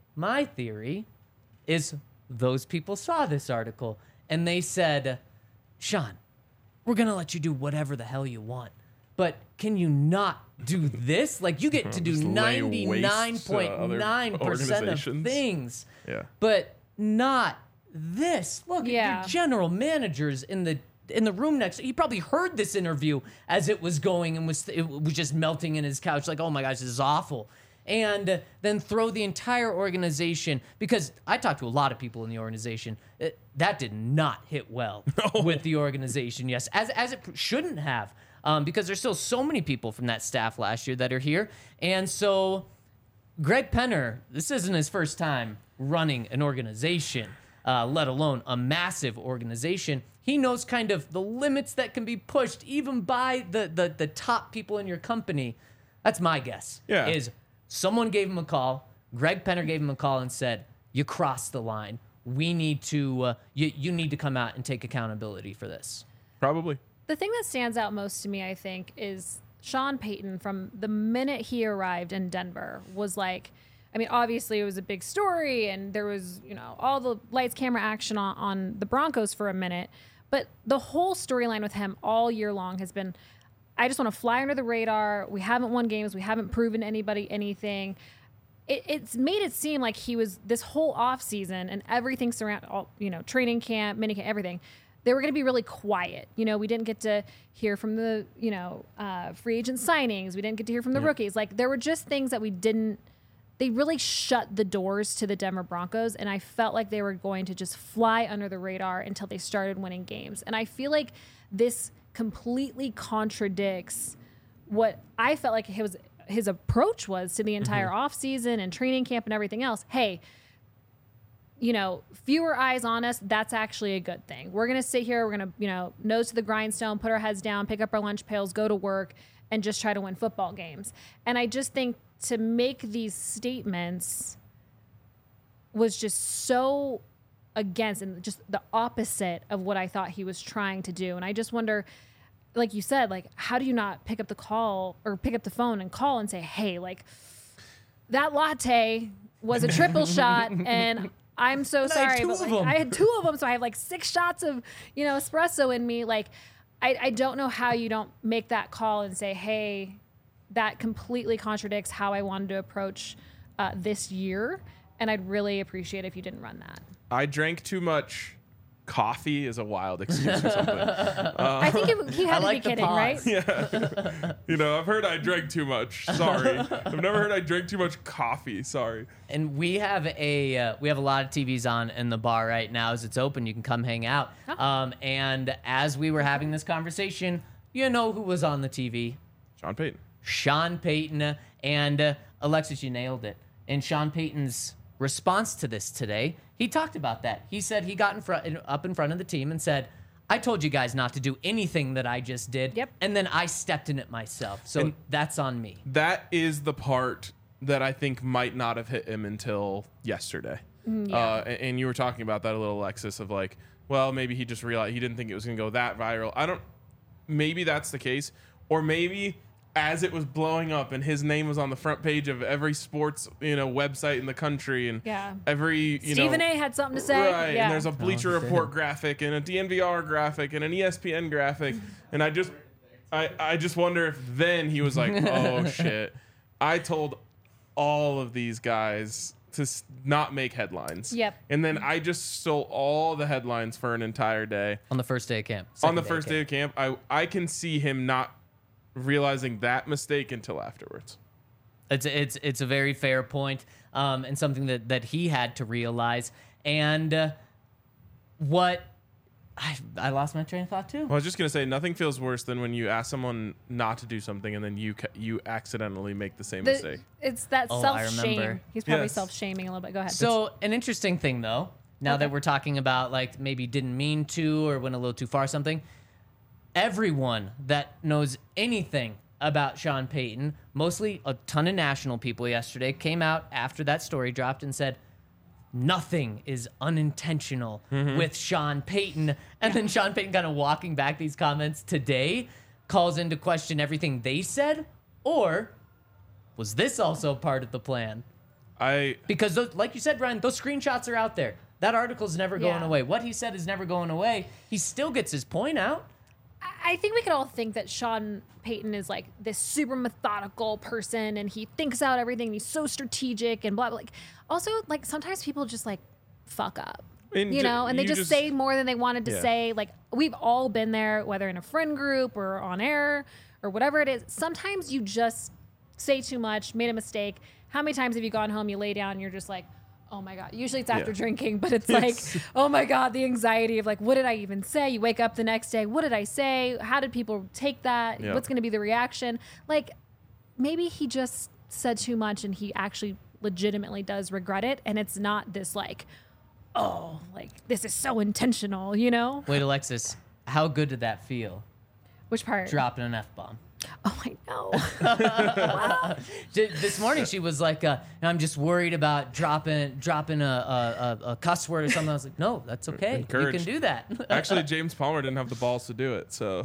My theory is those people saw this article and they said, Sean, we're going to let you do whatever the hell you want. But can you not do this? Like, you get to do Just lay waste to ninety-nine point nine percent of organizations. things, Yeah. but not this. Look, Yeah. your general managers in the in the room next. He probably heard this interview as it was going and was it was just melting in his couch. Like, oh my gosh, this is awful. And then throw the entire organization, because I talked to a lot of people in the organization. It, that did not hit well No. with the organization. Yes, as as it shouldn't have, um, because there's still so many people from that staff last year that are here, and so Greg Penner, this isn't his first time running an organization, uh, let alone a massive organization. He knows kind of the limits that can be pushed, even by the the, the top people in your company. That's my guess. Yeah. Is someone gave him a call. Greg Penner gave him a call and said, "You crossed the line. We need to. Uh, you you need to come out and take accountability for this." Probably. The thing that stands out most to me, I think, is Sean Payton, from the minute he arrived in Denver, was like, I mean, obviously it was a big story and there was, you know, all the lights, camera, action on, on the Broncos for a minute. But the whole storyline with him all year long has been, I just want to fly under the radar. We haven't won games. We haven't proven to anybody anything. It, it's made it seem like he was, this whole offseason and everything surround, all, you know, training camp, minicamp, everything, they were going to be really quiet. You know, we didn't get to hear from the, you know, uh, free agent signings. We didn't get to hear from the Yeah. rookies. Like, there were just things that we didn't, they really shut the doors to the Denver Broncos. And I felt like they were going to just fly under the radar until they started winning games. And I feel like this completely contradicts what I felt like his, his approach was to the entire Mm-hmm. offseason and training camp and everything else. Hey, you know, fewer eyes on us, that's actually a good thing. We're going to sit here, we're going to, you know, nose to the grindstone, put our heads down, pick up our lunch pails, go to work, and just try to win football games. And I just think to make these statements was just so against and just the opposite of what I thought he was trying to do. And I just wonder, like you said, like, how do you not pick up the call or pick up the phone and call and say, hey, like, that latte was a triple shot and I'm so And I had sorry, two but of like, them. I had two of them, so I have like six shots of, you know, espresso in me. Like, I, I don't know how you don't make that call and say, hey, that completely contradicts how I wanted to approach uh, this year. And I'd really appreciate if you didn't run that. I drank too much coffee is a wild excuse or something. I think it, he I had like to the be kidding, right? pause. You know, I've heard I drank too much. Sorry. I've never heard I drank too much coffee. Sorry. And we have a uh, we have a lot of T Vs on in the bar right now. As it's open, you can come hang out. Oh. Um, and as we were having this conversation, you know who was on the T V? Sean Payton. Sean Payton. And uh, Alexis, you nailed it. And Sean Payton's response to this today, he talked about that. He said he got in front, up in front of the team and said, I told you guys not to do anything that I just did. Yep. And then I stepped in it myself. So And- that's on me. That is the part that I think might not have hit him until yesterday. yeah. Uh, and, and you were talking about that a little, Alexis, of like, well, maybe he just realized he didn't think it was going to go that viral. I don't, maybe that's the case. Or maybe as it was blowing up and his name was on the front page of every sports, you know, website in the country and Yeah. every, you Stephen know. A had something to say. Right, Yeah. and there's a Bleacher Oh, Report graphic and a D N V R graphic and an E S P N graphic, and I just, I, I just wonder if then he was like, oh shit, I told all of these guys to s- not make headlines. Yep. And then I just stole all the headlines for an entire day. On the first day of camp. On the Second first day of camp, I I can see him not realizing that mistake until afterwards. It's it's it's a very fair point, um, and something that, that he had to realize. And uh, what I I lost my train of thought too. Well, I was just gonna say, nothing feels worse than when you ask someone not to do something and then you ca- you accidentally make the same The- mistake. it's that Oh, I self shame. remember. He's probably Yes. self shaming a little bit. Go ahead. So an interesting thing though, now Okay. that we're talking about like maybe didn't mean to or went a little too far or something, everyone that knows anything about Sean Payton, mostly a ton of national people yesterday, came out after that story dropped and said, nothing is unintentional with Sean Payton. And then Sean Payton kind of walking back these comments today calls into question everything they said, or was this also part of the plan? I Because, those, like you said, Ryan, those screenshots are out there. That article's never going Yeah. away. What he said is never going away. He still gets his point out. I think we could all think that Sean Payton is like this super methodical person and he thinks out everything. And he's so strategic and blah, blah. Like, also, like sometimes people just like fuck up, And you ju- know, and they you just, just- say more than they wanted to Yeah. say. Like, we've all been there, whether in a friend group or on air or whatever it is. Sometimes you just say too much, made a mistake. How many times have you gone home, you lay down, and you're just like, oh my God. Usually it's after Yeah. drinking, but it's like, oh my God, the anxiety of like, what did I even say? You wake up the next day, what did I say? How did people take that? Yeah. What's going to be the reaction? Like, maybe he just said too much and he actually legitimately does regret it. And it's not this like, oh, like this is so intentional, you know? Wait, Alexis, how good did that feel? Which part? Dropping an F-bomb. Oh, I know. J- This morning she was like, uh, "I'm just worried about dropping dropping a, a, a, a cuss word or something." I was like, "No, that's okay. You can Encouraged. do that." Actually, James Palmer didn't have the balls to do it. So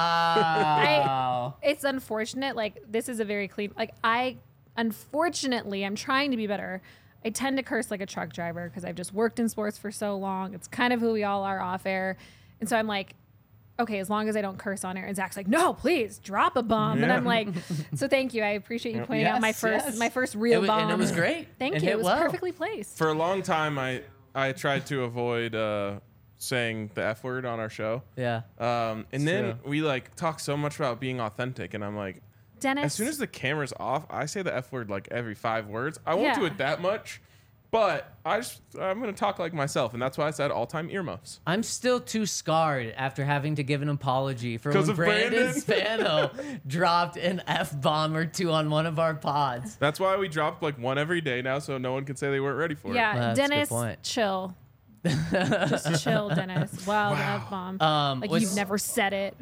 Wow. It's unfortunate. Like, this is a very clean, like, I, unfortunately, I'm trying to be better. I tend to curse like a truck driver because I've just worked in sports for so long. It's kind of who we all are off air. And so I'm like, okay, as long as I don't curse on air. And Zach's like, no, please drop a bomb. And Yeah. I'm like, so thank you. I appreciate you pointing out my Yes, first, yes. my first It real wa- bomb. and it was great. Thank It you. hit It was well. perfectly placed. for a long time, I I tried to avoid uh, saying the F word on our show. Yeah. Um, and then true. we like talk so much about being authentic, and I'm like, Dennis. as soon as the camera's off, I say the F word like every five words. I won't do Yeah. it that much, but I just I'm gonna talk like myself, and that's why I said all time earmuffs. I'm still too scarred after having to give an apology for 'Cause when of Brandon Brandon? Spano dropped an F-bomb or two on one of our pods. That's why we drop like one every day now, so no one can say they weren't ready for yeah, it. Well, that's a good Dennis, point. chill. Just chill, Dennis. Wow, the F bomb. Um, like what's- you've never said it.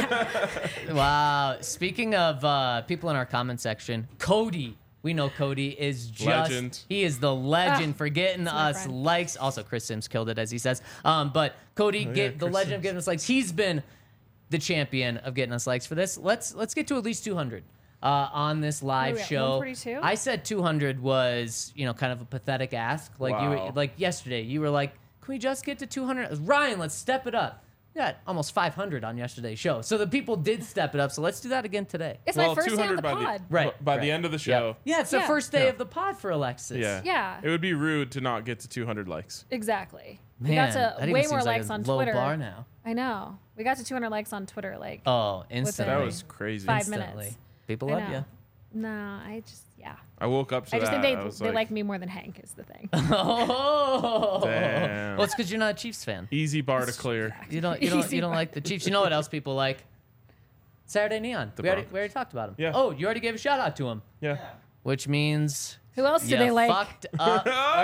Wow. Speaking of uh, people in our comment section, Cody. We know Cody is just Legend. he is the legend Ah, for getting that's my us friend. likes. Also, Chris Sims killed it as he says. Um, but Cody, Oh, get yeah, the Chris legend of Sims. getting us likes. He's been the champion of getting us likes for this. Let's let's get to at least two hundred uh, on this live we at, show. one forty-two? I said two hundred was you know kind of a pathetic ask. Like you were, Wow. like yesterday, you were like, "Can we just get to two hundred?" Ryan, let's step it up. We got almost five hundred on yesterday's show, so the people did step it up. So let's do that again today. It's well, my first day on the by pod. the Right, by right. the end of the show. Yep. Yeah, it's the Yeah. first day Yeah. of the pod for Alexis. Yeah. Yeah. It would be rude to not get to two hundred likes. Exactly. we Man, got that to even way seems more like likes a on low Twitter. bar now. I know. We got to two hundred likes on Twitter like Oh, instantly. That was crazy. Five Instantly. minutes. People I love know. you. No, I just yeah. I woke up to I just that. think I they was they like, like me more than Hank is the thing. Oh, Damn. well, it's because you're not a Chiefs fan. easy bar to clear. You don't. You don't. Easy You don't one. like the Chiefs. You know what else people like? Saturday Neon. The we, already, Broncos. we already talked about him. Yeah. Oh, you already gave a shout out to him, Yeah. which means Who else do you they like? fucked up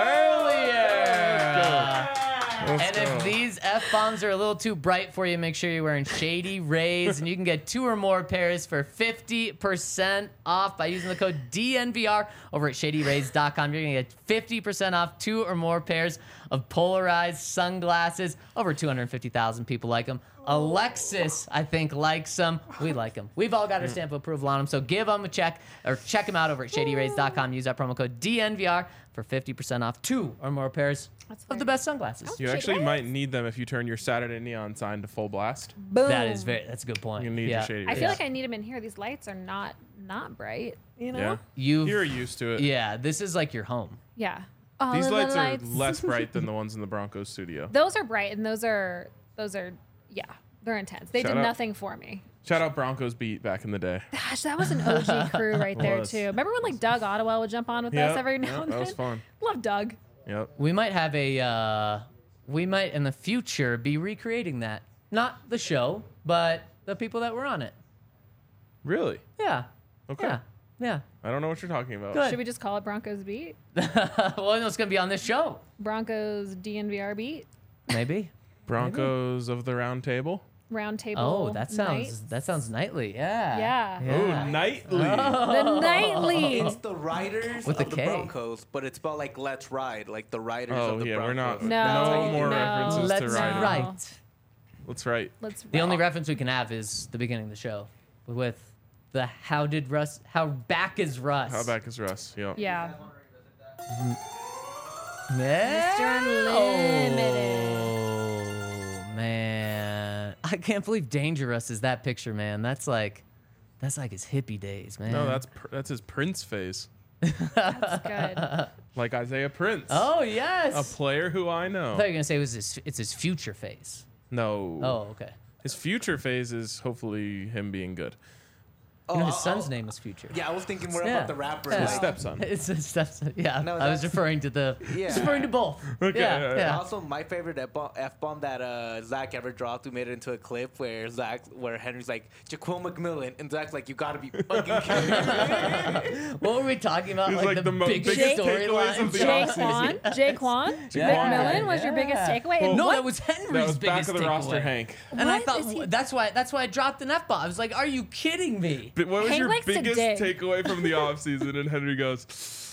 earlier. Let's And go. if these F bombs are a little too bright for you, make sure you're wearing Shady Rays, and you can get two or more pairs for fifty percent off by using the code D N V R over at shady rays dot com. You're going to get fifty percent off two or more pairs of polarized sunglasses. Over two hundred fifty thousand people like them. Alexis, I think, likes them. We like them. We've all got our stamp of approval on them, so give them a check or check them out over at shady rays dot com. Use that promo code D N V R for fifty percent off two or more pairs That's of the fair. best sunglasses. You actually might need them if you turn your Saturday neon sign to full blast. Boom. That is very. That's a good point. You need yeah. your shady I rays. feel like I need them in here. These lights are not not bright. You know? Yeah. You've, You're used to it. yeah, this is like your home. Yeah. All These of the lights, lights are less bright than the ones in the Broncos studio. Those are bright, and those are those are yeah, they're intense. They Shout did out. nothing for me. Shout out Broncos beat back in the day. Gosh, that was an O G crew right there Was. too. Remember when like Doug Ottawell would jump on with Yep, us every now yep, and that then? was fun. Love Doug. Yep. We might have a. Uh, we might in the future be recreating that. Not the show, but the people that were on it. Really? Yeah. Okay. Yeah. Yeah. I don't know what you're talking about. Good. Should we just call it Broncos Beat? Well, no, it's gonna be on this show. Broncos D N V R Beat? Maybe. Broncos of the round table. Round table. Oh, that sounds. nights? That sounds nightly. Yeah. Yeah. Yeah. Oh, nightly. The nightly. It's the Riders With of a the K. Broncos, but it's spelled like Let's Ride, like the Riders Oh, of the yeah, we're Broncos. not- No, That's how you more do it. references to Let's Riders. right. Let's right. Let's The only rock. reference we can have is the beginning of the show with the how did Russ how back is Russ. How back is Russ? Yep. Yeah. Yeah. Mister Unlimited. Oh man, I can't believe Dangerous is that picture, man. That's like, that's like his hippie days, man. No, that's pr- that's his Prince face, That's good. like Isaiah Prince. Oh yes. A player who I I know. thought you were gonna say it was his, it's his future face. No. Oh okay. His future phase is hopefully him being good. You know his oh, son's oh, name is Future. Yeah, I was thinking more Yeah. about the rapper. Yeah. His like- stepson. It's his stepson. Yeah, No, I was that's- referring to the. Yeah. Just referring to both. Okay, Yeah, yeah, yeah. yeah. Also, my favorite F bomb that uh, Zach ever dropped, we made it into a clip where Zach, where Henry's like, Jaquil McMillan, and Zach's like, you gotta be fucking kidding me. What were we talking about? It was Like, like the, the mo- biggest biggest takeaways storyline. of the Jake offseason. Quan? Jake Quan? Yeah. McMillan was your biggest Yeah. takeaway? And No, what? that was Henry's That was back biggest of the roster, takeaway. Hank. And I What thought is he- that's why that's why I dropped an F bomb. I was like, "Are you kidding me?" But what was Hank your likes to biggest dig. takeaway from the offseason? And Henry goes,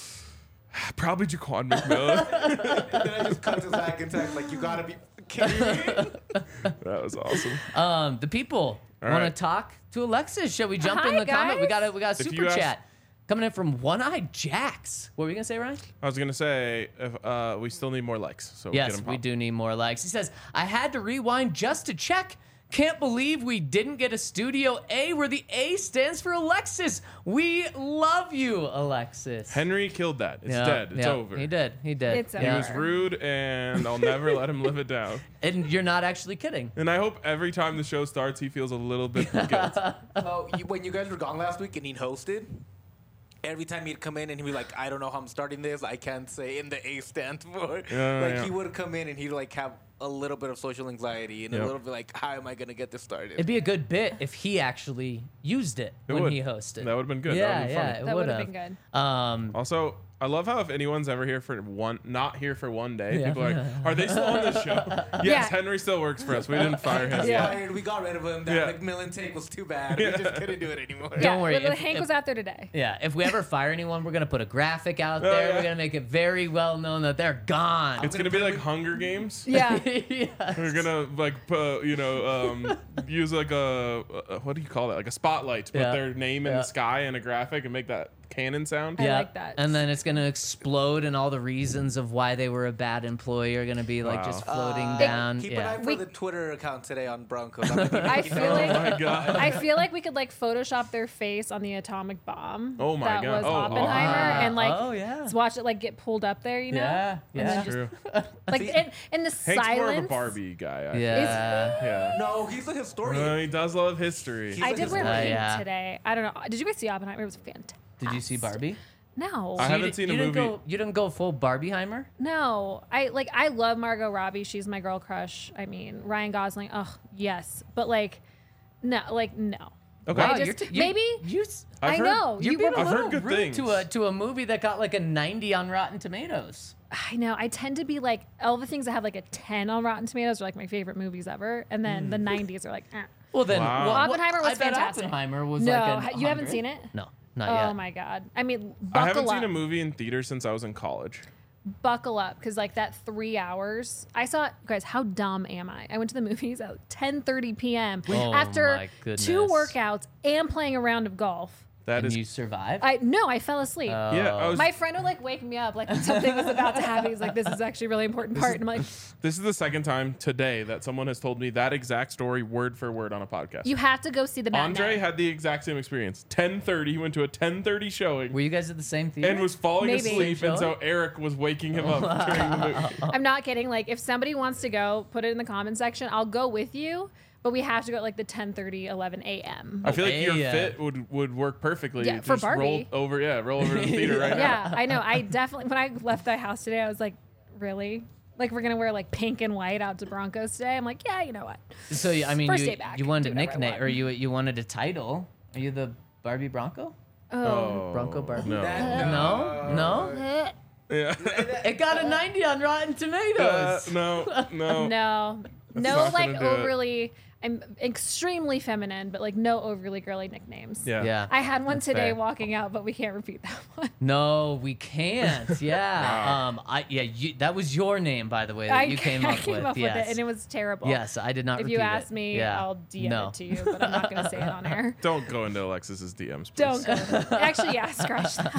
probably Jaquan McMillan. And then I just cut to Zach and Zach's like, you gotta be kidding me. That was awesome. Um, the people All want right. to talk to Alexis. Shall we jump Hi, in the comment? We guys. got a we got a If super you ask- chat coming in from One Eyed Jax. What were we gonna say, Ryan? I was going to say, if, uh, we still need more likes. So get Yes, 'em we popped. do need more likes. He says, I had to rewind just to check. Can't believe we didn't get a Studio A where the A stands for Alexis. We love you, Alexis. Henry killed that. It's Yeah, dead. It's yeah, over. He did. He did. It's He over. was rude, and I'll never let him live it down. And you're not actually kidding. And I hope every time the show starts, he feels a little bit guilt. Oh, you, when you guys were gone last week and he hosted, every time he'd come in and he'd be like, I don't know how I'm starting this. I can't say in the A stands for. Yeah, like yeah. he would come in and he'd like have a little bit of social anxiety and Yep. a little bit like, how am I gonna get this started? It'd be a good bit if he actually used it, It when would. he hosted. That would've been good. That Yeah, would've been yeah, funny. it That would would've have been good. Um, Also, I love how if anyone's ever here for one, not here for one day, Yeah. people are like, are they still on the show? Yes, Yeah. Henry still works for us. We didn't fire him Yeah. yet. Fired, we got rid of him. That Yeah. McMillan take was too bad. We just couldn't do it anymore. Yeah, worry, literally, if- Hank if- was out there today. yeah, if we ever fire anyone, we're gonna put a graphic out Oh, there. yeah. We're gonna make it very well known that they're gone. It's gonna be like Hunger Games. Yeah. Yes. We're gonna like, uh, you know, um, use like a, a what do you call that? Like a spotlight, put Yeah. their name in Yeah. the sky and a graphic and make that cannon sound. I Yeah, like that. And then it's gonna explode, and all the reasons of why they were a bad employee are gonna be like Wow. just floating Uh, down. Keep an Yeah. eye for We- the Twitter account today on Broncos. I'm gonna be I making feel notes. Oh like my god. I feel like we could like Photoshop their face on the atomic bomb. Oh my that God. was Oh, Oppenheimer, wow. and like Oh, yeah. just watch it like get pulled up there, you know? Yeah, And then yeah. just- True. Like in, in the Hank's silence. more of a Barbie guy. I Yeah. think. Yeah. No, he's a historian. Uh, he does love history. He's I like did his- wear Uh, pink yeah. today. I don't know. Did you guys see Oppenheimer? It was fantastic. Did you see Barbie? No. I You haven't di- seen a you didn't movie. Go, you didn't go full Barbieheimer? No, I like I love Margot Robbie. She's my girl crush. I mean, Ryan Gosling. Oh, yes. But like no, like no. Okay. I Wow, just- you're t- you- maybe you, s- I've I heard- know. You're You being were a I've heard little good rude things. to a to a movie that got like a ninety on Rotten Tomatoes. I know. I tend to be like all the things that have like a ten on Rotten Tomatoes are like my favorite movies ever, and then the nineties are like. Eh. Well then, Wow. what- Oppenheimer was I bet fantastic. Oppenheimer was No, like ha- an you haven't one hundred. seen it? No, not Oh yet. my god! I mean, I buckle haven't up, seen a movie in theaters since I was in college. buckle up, because like that three hours. I saw guys. How dumb am I? I went to the movies at ten thirty p.m. Oh after my goodness. two workouts and playing a round of golf. That And is. you survived? I no, I fell asleep. yeah, I was. My friend would like wake me up like when something was about to happen. He's like, "This is actually a really important part," and I'm like, This is the second time today that someone has told me that exact story word for word on a podcast. "You have to go see the matinee." Andre had the exact same experience. ten thirty, he went to a ten thirty showing Were you guys at the same theater? and was falling Maybe. asleep, and so Showing? Eric was waking him up during the movie. I'm not kidding. Like, if somebody wants to go, put it in the comment section. I'll go with you, but we have to go at like the ten thirty, eleven a.m. I feel like your yeah. fit would, would work perfectly. Yeah, for Just roll Barbie. over, yeah, roll over to the theater right now. Yeah, I know. I definitely, when I left the house today, I was like, really? Like, we're going to wear like pink and white out to Broncos today? I'm like, yeah, you know what? So yeah, I mean, First you, day back. you wanted a Do whatever I nickname, want. or you you wanted a title. Are you the Barbie Bronco? Oh. Bronco Barbie? No. That- No, no. Uh, Yeah. It got a ninety on Rotten Uh, Tomatoes. no, no. no. No, not like gonna do it. overly, I'm extremely feminine, but like no overly girly nicknames. Yeah. Yeah. I had one That's today fair. walking out, but we can't repeat that one. No, we can't. Yeah. Um. I yeah. You, that was your name, by the way, that I, you came I up came with. up yes. with it, and it was terrible. Yes, I did not. If repeat you ask it. me, yeah. I'll D M no. it to you, but I'm not going to say it on air. Don't go into Alexis's D Ms, please. Don't go. Actually, yeah, scratch that.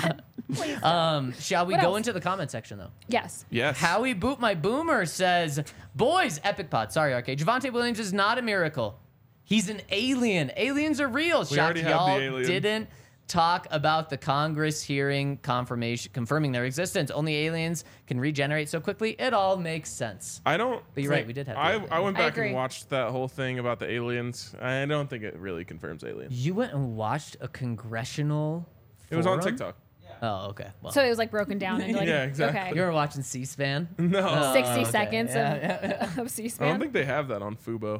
Please don't. Um, shall we What go else? into the comment section though? Yes. Yes. Howie Boot My Boomer says, "Boys, Epic Pod. Sorry, R K. Javonte Williams is not a miracle. He's an alien. Aliens are real. We Shocked already have the y'all alien. didn't talk about the Congress hearing confirmation confirming their existence. Only aliens can regenerate so quickly. It all makes sense." I don't. But you're think- right, we did have the I, alien. I went I back agree. and watched that whole thing about the aliens. I don't think it really confirms aliens. You went and watched a congressional. It was on forum? TikTok. Oh, okay. Well, So it was like broken down into like Yeah, exactly. you okay, were watching C-SPAN. No. Oh, sixty okay. seconds Yeah, of, yeah, yeah. of I don't C-SPAN. think they have that on Fubo.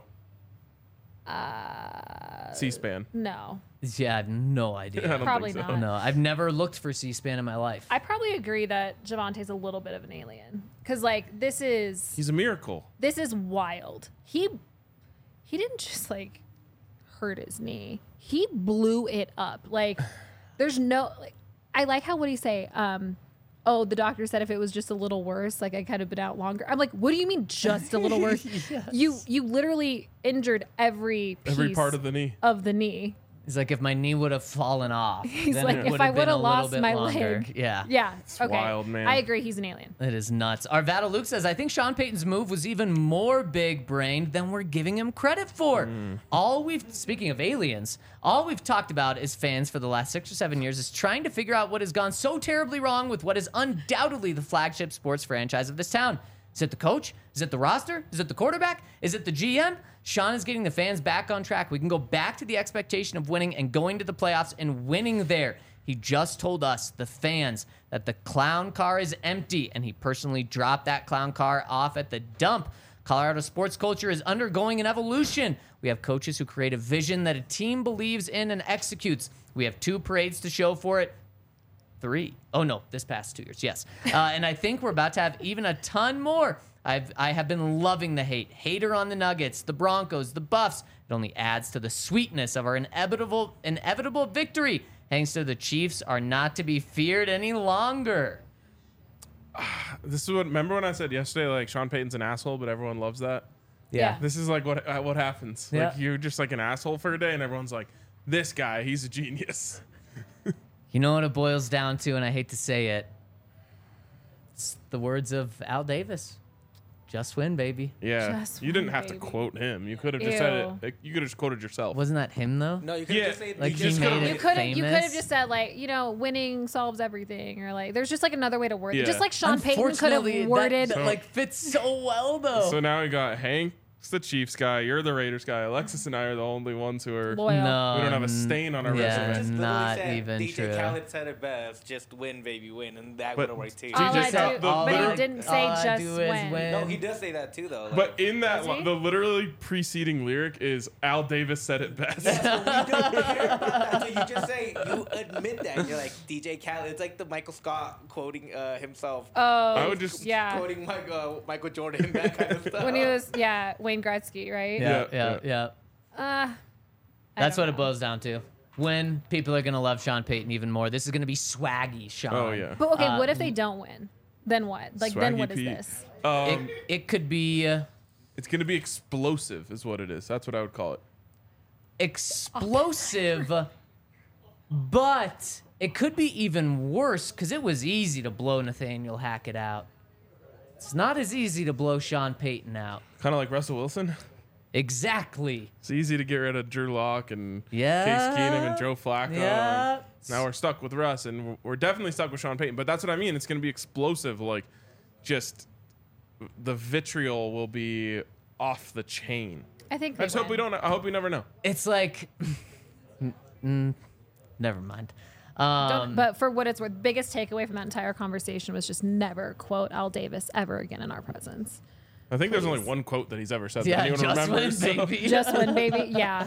Uh, C-SPAN. no, Yeah, I have no I idea. don't Probably think so. not. No, I've never looked for C-SPAN in my life. I probably agree that Javante's a little bit of an alien because like this is He's a miracle. this is wild. He he didn't just like hurt his knee. He blew it up. Like there's no like I like how what do you say? Um oh, the doctor said if it was just a little worse, like I could have been out longer. I'm like, what do you mean just a little worse? You you literally injured every piece Every part of the knee. of the knee. He's like, if my knee would have fallen off, He's then like, it if would I have would been a have little lost bit my longer. leg. Yeah. Yeah. okay. wild, man. I agree he's an alien. It is nuts. Arvada Luke says, I think Sean Payton's move was even more big-brained than we're giving him credit for. Hmm. All we've, speaking of aliens, all we've talked about as fans for the last six or seven years is trying to figure out what has gone so terribly wrong with what is undoubtedly the flagship sports franchise of this town. Is it the coach? Is it the roster? Is it the quarterback? Is it the G M? Sean is getting the fans back on track. We can go back to the expectation of winning and going to the playoffs and winning there. He just told us, the fans, that the clown car is empty, and he personally dropped that clown car off at the dump. Colorado sports culture is undergoing an evolution. We have coaches who create a vision that a team believes in and executes. We have two parades to show for it. Three. Oh no, this past two years, yes. Uh, and I think we're about to have even a ton more. I've I have been loving the hate. Hater on the Nuggets, the Broncos, the Buffs. It only adds to the sweetness of our inevitable inevitable victory. Thanks to the Chiefs are not to be feared any longer. This is what. Remember when I said yesterday, like Sean Payton's an asshole, but everyone loves that. Yeah. This is like what uh, what happens. Yeah. Like you're just like an asshole for a day, and everyone's like, "This guy, he's a genius." You know what it boils down to, and I hate to say it. It's the words of Al Davis. Just win, baby. Yeah. Just you didn't win, have to baby. quote him. You could have just said it. Ew. Like, you could have just quoted yourself. Wasn't that him though? No, you could Yeah, just say like you he just made could've- it You could have you could have famous. just said like, you know, winning solves everything, or like there's just like another way to word it. Yeah. Just like Sean Payton could Unfortunately, have that- worded. that, like fits so well though. So now we got Hank's the Chiefs guy. You're the Raiders guy. Alexis and I are the only ones who are. Loyal. No, We don't have a n- stain on our yeah, resume. Just literally not said, even D J true. Khaled said it best. Just win, baby, win, and that But would have worked too. All J J I Khaled- do, the but he literal- didn't say all I just do is win. win. No, he does say that too, though. Like, But in that, Does li- he? the literally preceding lyric is Al Davis said it best. yes, but we don't care about that. So you just say you admit that. You're like D J Khaled. It's like the Michael Scott quoting uh, himself, Oh, I would just- yeah. quoting Mike, uh, Michael Jordan, that kind of stuff. When he was yeah Wayne Gretzky, right? Yeah, Yeah, yeah, yeah. Uh, I That's don't what it know. boils down to. When people are gonna love Sean Payton even more. This is gonna be swaggy Sean. Oh yeah. But okay, Uh, what if they don't win? Then what? Like then Swaggy what is Pete. this? Um, It, it could be uh, it's gonna be explosive, is what it is. That's what I would call it. explosive, but it could be even worse because it was easy to blow Nathaniel Hackett out. It's not as easy to blow Sean Payton out. Kind of like Russell Wilson. Exactly. It's easy to get rid of Drew Lock and Yeah. Case Keenum and Joe Flacco. Yeah. and now we're stuck with Russ, and we're- we're definitely stuck with Sean Payton. But that's what I mean. It's going to be explosive. Like, just the vitriol will be off the chain. I think. I They just hope we win. don't. I hope we never know. It's like, mm, never mind. Um, Don't, but for what it's worth, biggest takeaway from that entire conversation was just never quote Al Davis ever again in our presence. I think there's only Please. one quote that he's ever said yeah, that anyone just win, remembers. so- baby. Just when baby, yeah.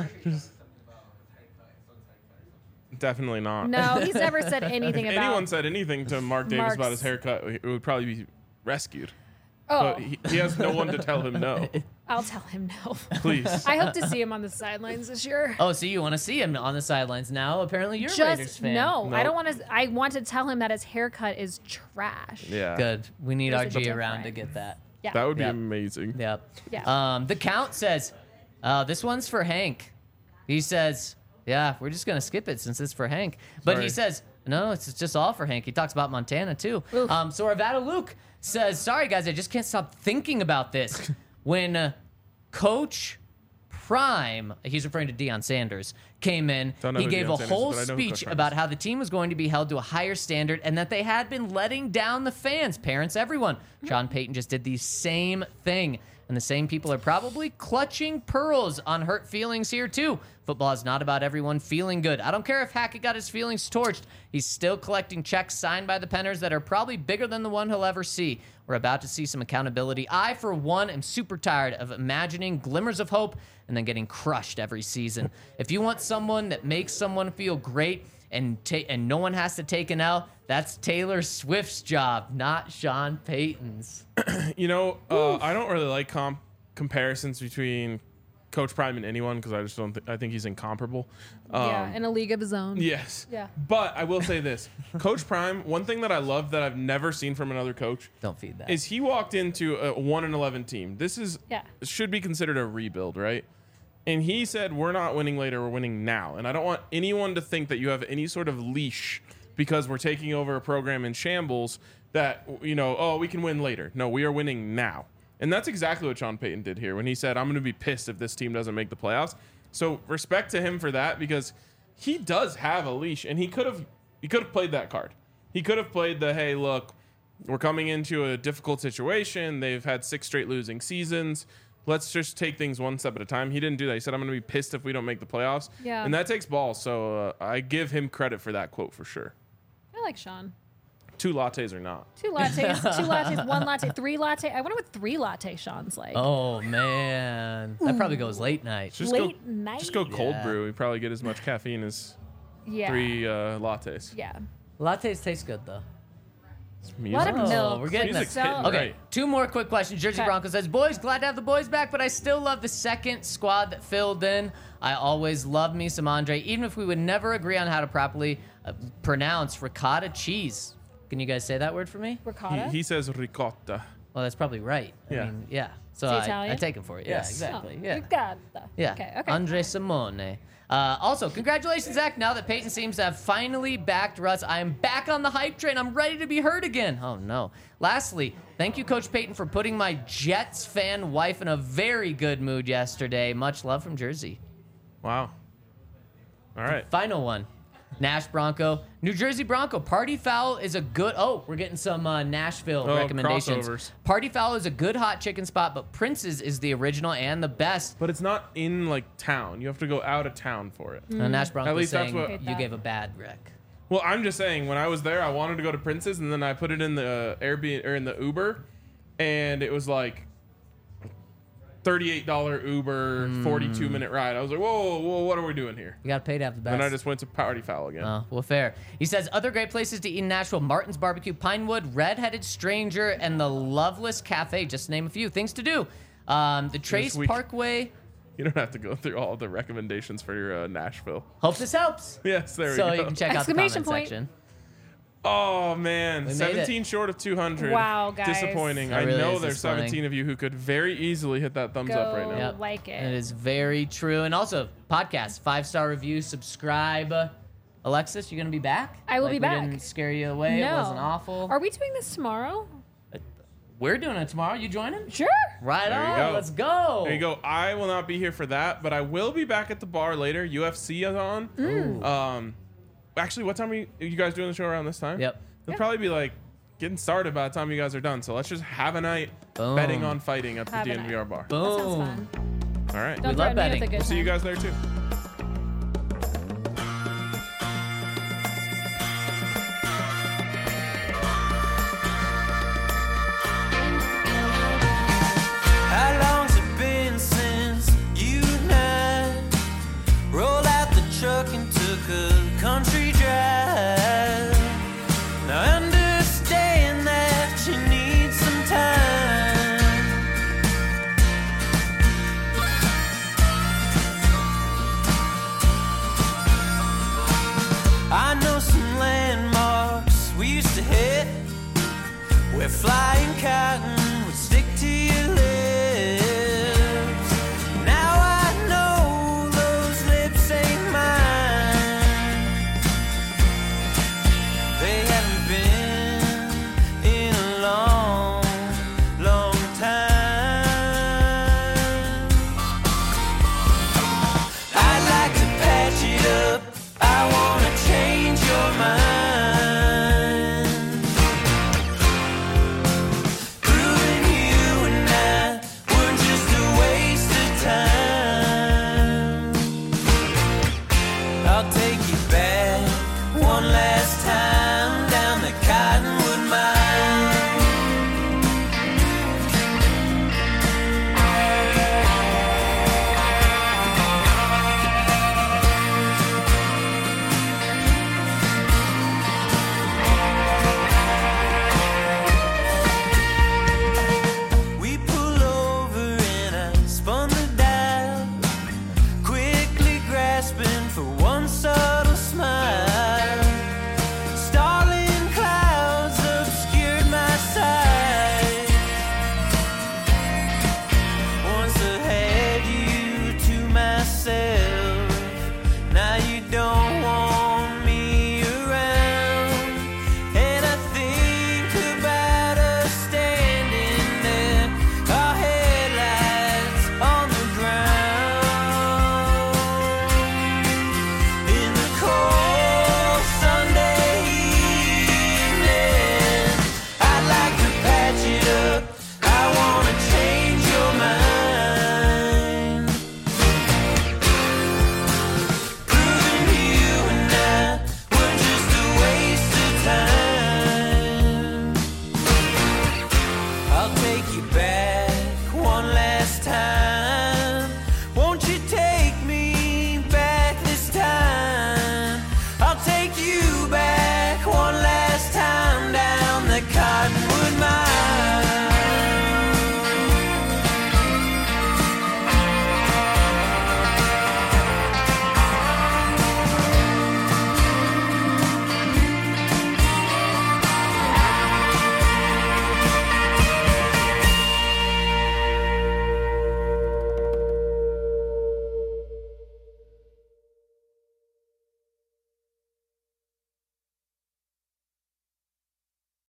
Definitely not. No, he's never said anything If about. anyone said anything to Mark Davis about Mark's- his haircut, it would probably be rescued. oh, But he, he has no one to tell him no. I'll tell him no. Please. I hope to see him on the sidelines this year. Oh, so you want to see him on the sidelines now? Apparently, you're a Raiders Just fan. no, I Nope. don't want to. I want to tell him that his haircut is trash. Yeah. Good. We need Those R are G around to different. get that. Yeah. That would be Yep. amazing. Yep. Yeah. Um, the count says, uh, this one's for Hank. He says, yeah, we're just gonna skip it since it's for Hank. But he Sorry. says, No, it's it's just all for Hank. He talks about Montana too. Um, so Arvada Luke says, "Sorry guys, I just can't stop thinking about this." When uh, Coach Prime, he's referring to Deion Sanders, came in, Don't know he who gave Deion a Sanders is, whole but I know who Coach speech Prime about is. how the team was going to be held to a higher standard and that they had been letting down the fans, parents, everyone. Sean Payton just did the same thing. And the same people are probably clutching pearls on hurt feelings here, too. Football is not about everyone feeling good. I don't care if Hackett got his feelings torched. He's still collecting checks signed by the Penners that are probably bigger than the one he'll ever see. We're about to see some accountability. I, for one, am super tired of imagining glimmers of hope and then getting crushed every season. If you want someone that makes someone feel great and ta- and no one has to take an L, that's Taylor Swift's job, not Sean Payton's. You know, uh, I don't really like comp- comparisons between Coach Prime and anyone because I just don't. Th- I think he's incomparable. Um, yeah, in a league of his own. Yes. Yeah. But I will say this: Coach Prime. One thing that I love that I've never seen from another coach Don't feed that. is he walked into a one and eleven team. This is Yeah. should be considered a rebuild, right? And he said, "We're not winning later. We're winning now." And I don't want anyone to think that you have any sort of leash because we're taking over a program in shambles. That you know, oh, we can win later. No, we are winning now. And that's exactly what Sean Payton did here when he said, "I'm going to be pissed if this team doesn't make the playoffs." So respect to him for that because he does have a leash, and he could have he could have played that card. He could have played the, "Hey, look, we're coming into a difficult situation. They've had six straight losing seasons. Let's just take things one step at a time." He didn't do that. He said, "I'm going to be pissed if we don't make the playoffs." Yeah. And that takes balls. So uh, I give him credit for that quote for sure. I like Sean. Two lattes or not. Two lattes, two lattes, one latte, three latte. I wonder what three latte Sean's like. Oh, man. That probably goes late night. Just Late go, night. Just go cold Yeah. brew. We probably get as much caffeine as yeah. three uh, lattes. Yeah. Lattes taste good, though. Music. Lot of Oh, milk. we're getting Music's So- hitting Okay, right. two more quick questions. Jersey Okay. Bronco says, "Boys, glad to have the boys back, but I still love the second squad that filled in. I always love me some Andre, even if we would never agree on how to properly uh, pronounce ricotta cheese." Can you guys say that word for me? Ricotta. He, he says ricotta. Well, that's probably right. I Yeah. mean, yeah. So Is he I, Italian? I take him for it. Yeah, Yes. exactly. Oh, yeah. Ricotta. Yeah. Okay. Okay. Andre Simone. Uh, also, congratulations, Zach. Now that Peyton seems to have finally backed Russ, I am back on the hype train. I'm ready to be heard again. Oh, no. Lastly, thank you, Coach Peyton, for putting my Jets fan wife in a very good mood yesterday. Much love from Jersey. Wow. All right. Final one. Nash Bronco. New Jersey Bronco. Party Foul is a good... Oh, we're getting some uh, Nashville Oh, recommendations. crossovers. Party Foul is a good hot chicken spot, but Prince's is the original and the best. But it's not in like town. You have to go out of town for it. Uh, Nash Bronco At least that's saying what- you Hate that. gave a bad rec. Well, I'm just saying when I was there, I wanted to go to Prince's, and then I put it in the uh, Airbnb or in the Uber, and it was like thirty-eight dollar Uber, forty-two minute ride. I was like, whoa, whoa, what are we doing here? You got to pay to have the best. Then I just went to Party Foul again. Oh, well, fair. He says other great places to eat in Nashville: Martin's Barbecue, Pinewood, Red-Headed Stranger, and the Loveless Cafe. Just to name a few things to do. Um, the Trace week. Parkway. You don't have to go through all the recommendations for your uh, Nashville. Hope this helps. Yes, there So we you go. can check out the Exclamation comment point. section. Oh man, We made seventeen short of two hundred. Wow, guys. Disappointing. That I really know is there's disappointing. seventeen of you who could very easily hit that thumbs Go up right now. Yep. like it. It is very true. And also, podcast, five star review, subscribe. Alexis, you gonna be back? I will Like be we back. Didn't scare you away. no. It wasn't awful. Are we doing this tomorrow? We're doing it tomorrow. You joining? Sure. Right There you on. go. Let's go. There you go. I will not be here for that, but I will be back at the bar later. U F C is on. Ooh. Um, actually, what time are you, are you guys doing the show around this time? Yep. It'll probably be like getting started by the time you guys are done. So let's just have a night Boom. betting on fighting at the Have a D N V R night. bar. Boom. That sounds fun. All right. Don't We love threaten me with betting. a good We'll see you time. guys there too. How long's it been since you and I rolled out the truck and took a country drive? Now I understand that you need some time. I'll take you back one last time.